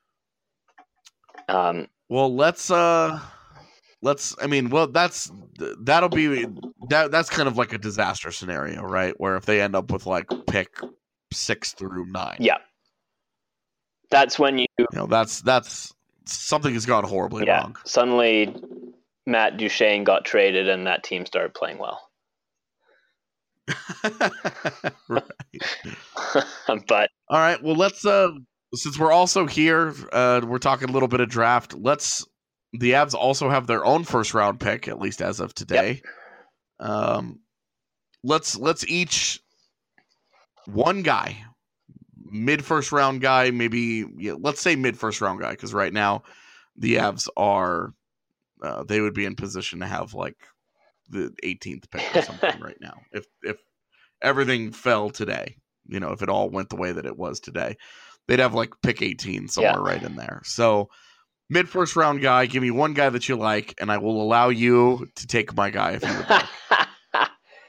[SPEAKER 7] Um,
[SPEAKER 6] well, let's, uh, let's, I mean, well, that's, that'll be, that that's kind of like a disaster scenario, right? Where if they end up with like pick six through nine.
[SPEAKER 7] Yeah. that's when you,
[SPEAKER 6] You know, that's that's something has gone horribly
[SPEAKER 7] yeah,
[SPEAKER 6] wrong.
[SPEAKER 7] suddenly Matt Duchene got traded and that team started playing well.
[SPEAKER 6] Right.
[SPEAKER 7] But
[SPEAKER 6] all right, well, let's uh since we're also here, uh we're talking a little bit of draft. Let's the Avs also have their own first round pick, at least as of today. Yep. Um let's let's each one guy, mid first round guy, maybe yeah, let's say mid first round guy, because right now the Avs are uh, they would be in position to have like the eighteenth pick or something right now if if everything fell today. You know, if it all went the way that it was today, they'd have like pick eighteen somewhere yeah. right in there. So mid first round guy, give me one guy that you like, and I will allow you to take my guy if you would like.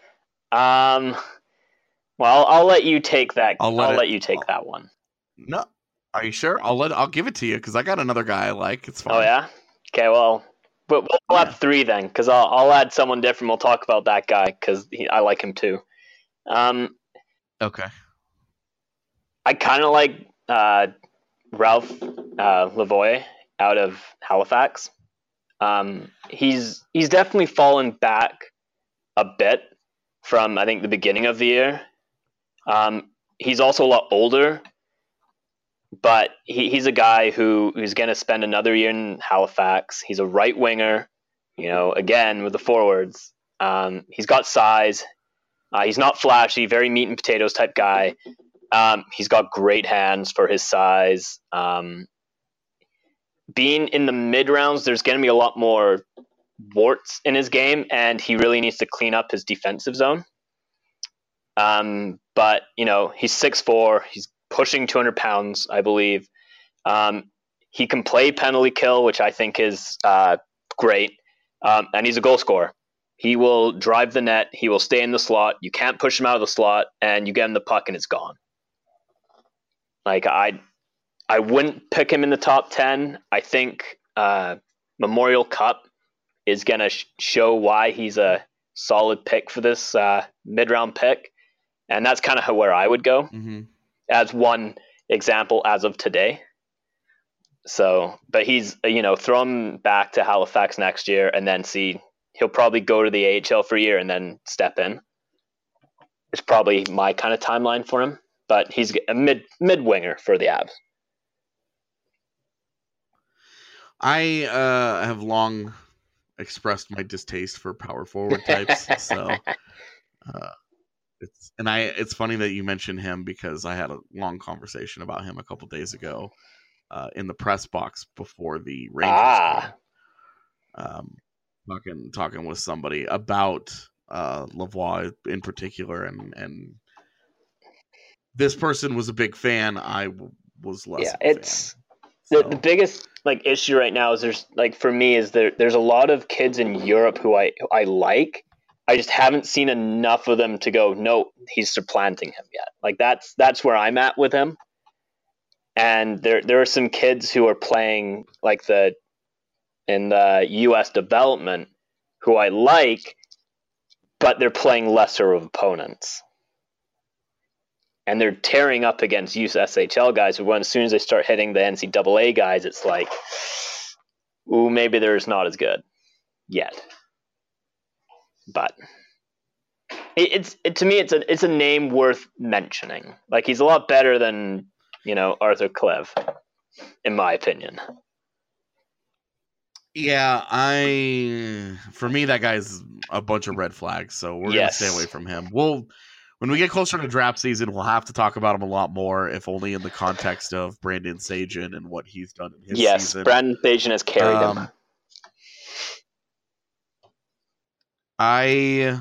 [SPEAKER 7] um, well, I'll let you take that. I'll let, I'll
[SPEAKER 6] it,
[SPEAKER 7] let you take that one.
[SPEAKER 6] No, are you sure? I'll let I'll give it to you because I got another guy I like. It's fine.
[SPEAKER 7] Oh yeah. Okay. Well, but we'll, we'll yeah. have three then, because I'll I'll add someone different. We'll talk about that guy because I like him too. Um.
[SPEAKER 6] Okay.
[SPEAKER 7] I kind of like uh, Ralph uh, Lavoie out of Halifax. Um, he's he's definitely fallen back a bit from, I think, the beginning of the year. Um, he's also a lot older, but he, he's a guy who who's going to spend another year in Halifax. He's a right winger, you know, again with the forwards. Um, he's got size. Uh, he's not flashy, very meat and potatoes type guy. Um, he's got great hands for his size. Um, being in the mid rounds, there's going to be a lot more warts in his game, and he really needs to clean up his defensive zone. Um, but, you know, he's six foot four. He's pushing two hundred pounds, I believe. Um, he can play penalty kill, which I think is uh, great. Um, and he's a goal scorer. He will drive the net. He will stay in the slot. You can't push him out of the slot, and you get him the puck, and it's gone. Like, I I wouldn't pick him in the top ten. I think uh, Memorial Cup is going to sh- show why he's a solid pick for this uh, mid-round pick. And that's kind of where I would go
[SPEAKER 6] mm-hmm.
[SPEAKER 7] as one example as of today. So, but he's, you know, throw him back to Halifax next year and then see, he'll probably go to the A H L for a year and then step in. It's probably my kind of timeline for him. But he's a mid mid winger for the Avs.
[SPEAKER 6] I uh, have long expressed my distaste for power forward types, so uh, it's and I it's funny that you mentioned him because I had a long conversation about him a couple days ago uh, in the press box before the Rangers
[SPEAKER 7] ah.
[SPEAKER 6] game. Um, talking talking with somebody about uh, Lavoie in particular, and and. This person was a big fan. I w- was less.
[SPEAKER 7] Yeah,
[SPEAKER 6] of a
[SPEAKER 7] it's
[SPEAKER 6] fan,
[SPEAKER 7] the,
[SPEAKER 6] so.
[SPEAKER 7] the biggest like issue right now is there's like for me is there there's a lot of kids in Europe who I who I like. I just haven't seen enough of them to go, no, he's supplanting him yet. Like that's that's where I'm at with him. And there there are some kids who are playing like the in the U S development who I like, but they're playing lesser of opponents. And they're tearing up against U S H L guys. But when as soon as they start hitting the N C double A guys, it's like, ooh, maybe they're not as good yet. But it, it's it, to me, it's a it's a name worth mentioning. Like he's a lot better than you know Arthur Klev, in my opinion.
[SPEAKER 6] Yeah, I for me that guy's a bunch of red flags. So we're
[SPEAKER 7] yes.
[SPEAKER 6] gonna stay away from him. We'll. When we get closer to draft season, we'll have to talk about him a lot more, if only in the context of Brandon Sagen and what he's done in his
[SPEAKER 7] yes,
[SPEAKER 6] season.
[SPEAKER 7] Yes, Brandon Sagen has carried
[SPEAKER 6] um,
[SPEAKER 7] him.
[SPEAKER 6] I,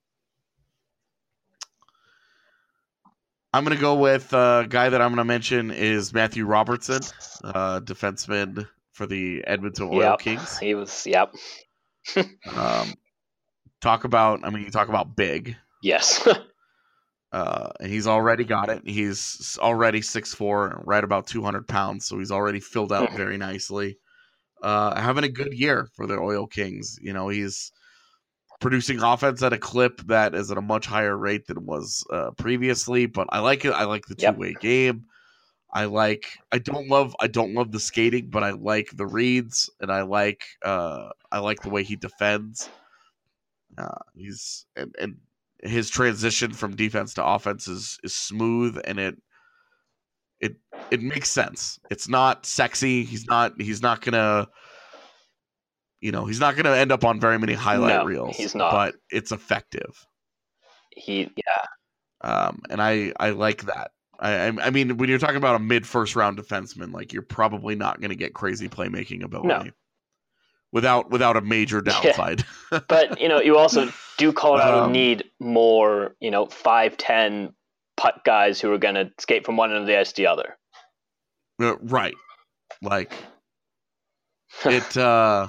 [SPEAKER 6] I'm going to go with a uh, guy that I'm going to mention is Matthew Robertson, uh, defenseman for the Edmonton Oil
[SPEAKER 7] yep,
[SPEAKER 6] Kings.
[SPEAKER 7] He was, yep.
[SPEAKER 6] um, talk about, I mean, you talk about big.
[SPEAKER 7] Yes.
[SPEAKER 6] Uh, and he's already got it. He's already six foot four, right about two hundred pounds, so he's already filled out very nicely. Uh, having a good year for the Oil Kings. You know, he's producing offense at a clip that is at a much higher rate than was uh, previously, but I like it. I like the two-way yep. game. I like. I don't love. I don't love the skating, but I like the reads, and I like. Uh, I like the way he defends. Uh, he's and, and his transition from defense to offense is is smooth, and it it it makes sense. It's not sexy. He's not. He's not gonna. You know, he's not gonna end up on very many highlight
[SPEAKER 7] No,
[SPEAKER 6] reels.
[SPEAKER 7] he's not.
[SPEAKER 6] But it's effective.
[SPEAKER 7] He yeah.
[SPEAKER 6] Um, and I I like that. I, I mean, when you're talking about a mid first round defenseman, like you're probably not going to get crazy playmaking ability
[SPEAKER 7] No.
[SPEAKER 6] without without a major downside.
[SPEAKER 7] Yeah. But you know, you also do Colorado
[SPEAKER 6] Um,
[SPEAKER 7] need more, you know, five ten putt guys who are going to skate from one end of the ice to the other.
[SPEAKER 6] Uh, right, like it. Uh,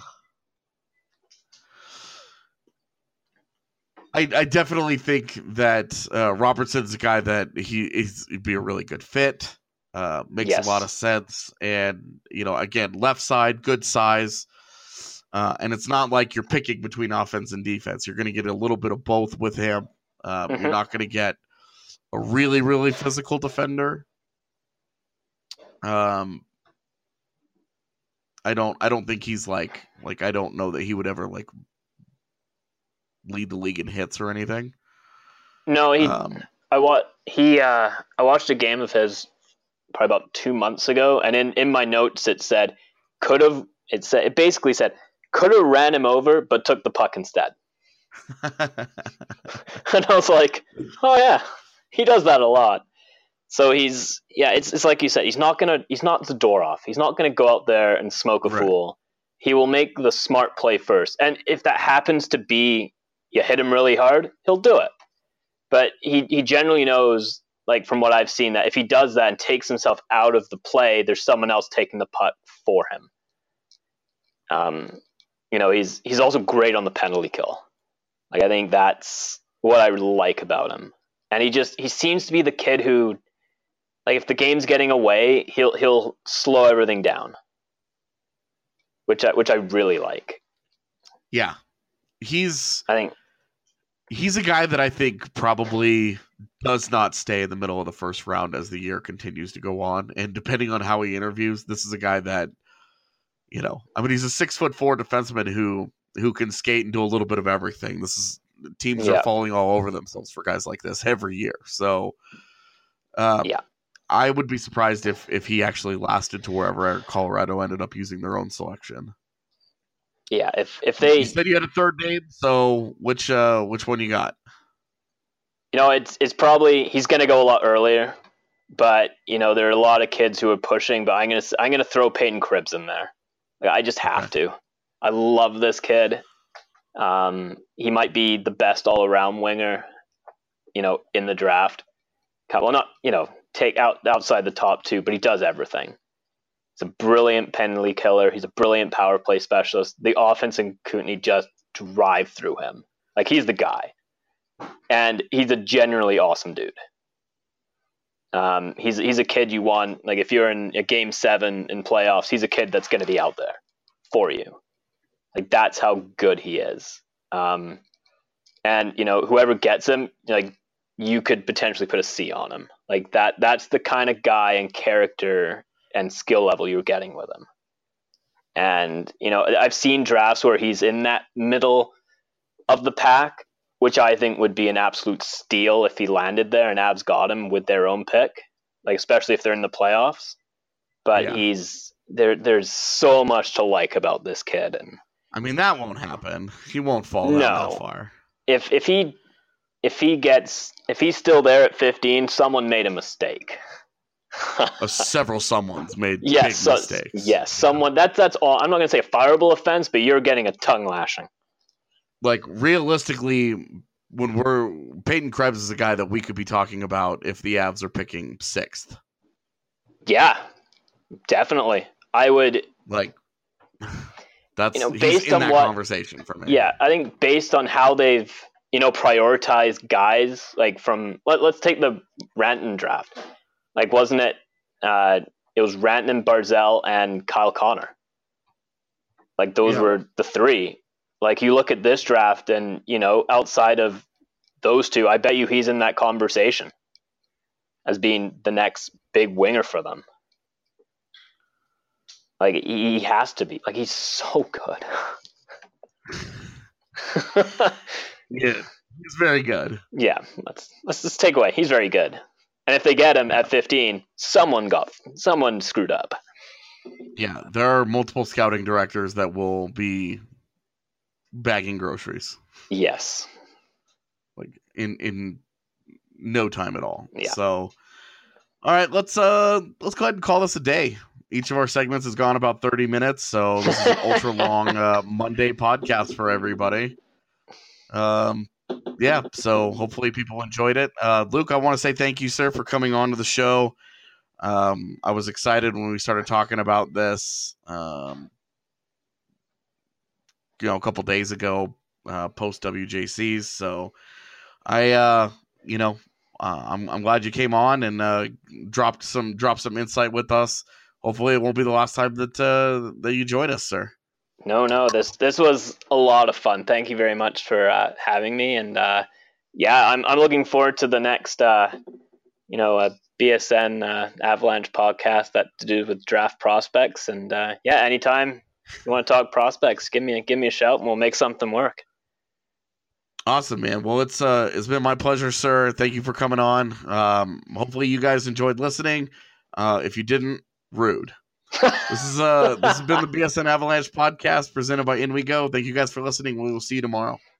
[SPEAKER 6] I, I definitely think that uh, Robertson's a guy that he is he'd be a really good fit. Uh, makes
[SPEAKER 7] Yes.
[SPEAKER 6] a lot of sense, and you know, again, left side, good size, uh, and it's not like you're picking between offense and defense. You're going to get a little bit of both with him. Uh,
[SPEAKER 7] Mhm.
[SPEAKER 6] You're not going to get a really, really physical defender. Um, I don't, I don't think he's like, like I don't know that he would ever like lead the league in hits or anything.
[SPEAKER 7] No, he
[SPEAKER 6] Um,
[SPEAKER 7] I wa- he uh I watched a game of his probably about two months ago, and in, in my notes it said could have it said it basically said could have ran him over but took the puck instead. And I was like, oh yeah, he does that a lot. So he's yeah, it's it's like you said, he's not gonna he's not the door off. He's not gonna go out there and smoke a
[SPEAKER 6] Right.
[SPEAKER 7] fool. He will make the smart play first, and if that happens to be you hit him really hard, he'll do it. But he, he generally knows, like from what I've seen, that if he does that and takes himself out of the play, there's someone else taking the putt for him. Um, you know, he's he's also great on the penalty kill. Like I think that's what I like about him. And he just he seems to be the kid who, like, if the game's getting away, he'll he'll slow everything down, which I, which I really like.
[SPEAKER 6] yeah, he's
[SPEAKER 7] I think.
[SPEAKER 6] he's a guy that I think probably does not stay in the middle of the first round as the year continues to go on. And depending on how he interviews, this is a guy that, you know, I mean, he's a six foot four defenseman who, who can skate and do a little bit of everything. This is teams
[SPEAKER 7] Yeah.
[SPEAKER 6] are falling all over themselves for guys like this every year. So, um,
[SPEAKER 7] Yeah.
[SPEAKER 6] I would be surprised if, if he actually lasted to wherever Colorado ended up using their own selection.
[SPEAKER 7] Yeah, if if they,
[SPEAKER 6] You said you had a third name, so which uh which one you got?
[SPEAKER 7] you know, it's it's probably he's going to go a lot earlier, but you know there are a lot of kids who are pushing. But I'm gonna I'm gonna throw Peyton Krebs in there. Like, I just have
[SPEAKER 6] Okay.
[SPEAKER 7] to. I love this kid. Um, he might be the best all around winger, you know, in the draft. Well, not you know take out outside the top two, but he does everything. He's a brilliant penalty killer. He's a brilliant power play specialist. The offense in Kootenay just drive through him. Like, he's the guy. And he's a generally awesome dude. Um, he's he's a kid you want. Like, if you're in a game seven in playoffs, he's a kid that's going to be out there for you. Like, that's how good he is. Um, and, you know, whoever gets him, like, you could potentially put a C on him. Like, that that's the kind of guy and character and skill level you're getting with him. And, you know, I've seen drafts where he's in that middle of the pack, which I think would be an absolute steal if he landed there and Avs got him with their own pick, like, especially if they're in the playoffs. But
[SPEAKER 6] Yeah.
[SPEAKER 7] he's there. There's so much to like about this kid. And
[SPEAKER 6] I mean, that won't happen. He won't fall down
[SPEAKER 7] No.
[SPEAKER 6] that far.
[SPEAKER 7] if, if he, if he gets, if he's still there at fifteen, someone made a mistake.
[SPEAKER 6] Uh, several someone's made
[SPEAKER 7] Yes,
[SPEAKER 6] big
[SPEAKER 7] so-
[SPEAKER 6] mistakes.
[SPEAKER 7] yes, someone. That's that's all. I'm not going to say a fireable offense, but you're getting a tongue lashing.
[SPEAKER 6] Like, realistically, when we're Peyton Krebs is a guy that we could be talking about if the Avs are picking sixth.
[SPEAKER 7] Yeah, definitely. I would.
[SPEAKER 6] Like, that's
[SPEAKER 7] You know,
[SPEAKER 6] he's
[SPEAKER 7] based
[SPEAKER 6] in
[SPEAKER 7] on
[SPEAKER 6] that
[SPEAKER 7] what-
[SPEAKER 6] conversation for me.
[SPEAKER 7] Yeah, I think based on how they've, you know, prioritized guys, like from let, let's take the Ranton draft. Like, wasn't it? Uh, it was Ranton, Barzell, and Kyle Connor. Like, those
[SPEAKER 6] Yeah.
[SPEAKER 7] were the three. Like, you look at this draft, and you know, outside of those two, I bet you he's in that conversation as being the next big winger for them. Like he has to be. Like he's so good.
[SPEAKER 6] Yeah, he's very good.
[SPEAKER 7] Yeah, let's let's just take away. He's very good. And if they get him at fifteen, someone got someone screwed up.
[SPEAKER 6] Yeah, there are multiple scouting directors that will be bagging groceries.
[SPEAKER 7] Yes.
[SPEAKER 6] Like in in no time at all.
[SPEAKER 7] Yeah.
[SPEAKER 6] So all right, let's uh let's go ahead and call this a day. Each of our segments has gone about thirty minutes, so this is an ultra long uh, Monday podcast for everybody. Um yeah, so hopefully people enjoyed it. Uh Luke, I want to say thank you, sir, for coming on to the show. Um I was excited when we started talking about this um you know a couple days ago, uh post W J Cs. So I uh you know uh, I'm I'm glad you came on and uh dropped some dropped some insight with us. Hopefully it won't be the last time that uh that you join us, sir.
[SPEAKER 7] No, no, this this was a lot of fun. Thank you very much for uh, having me, and uh, yeah, I'm I'm looking forward to the next, uh, you know, uh, B S N uh, Avalanche podcast that to do with draft prospects, and uh, yeah, anytime you want to talk prospects, give me a, give me a shout, and we'll make something work.
[SPEAKER 6] Awesome, man. Well, it's uh it's been my pleasure, sir. Thank you for coming on. Um, hopefully you guys enjoyed listening. Uh, if you didn't, rude. This is uh this has been the B S N Avalanche podcast presented by In We Go. Thank you guys for listening. We will see you tomorrow.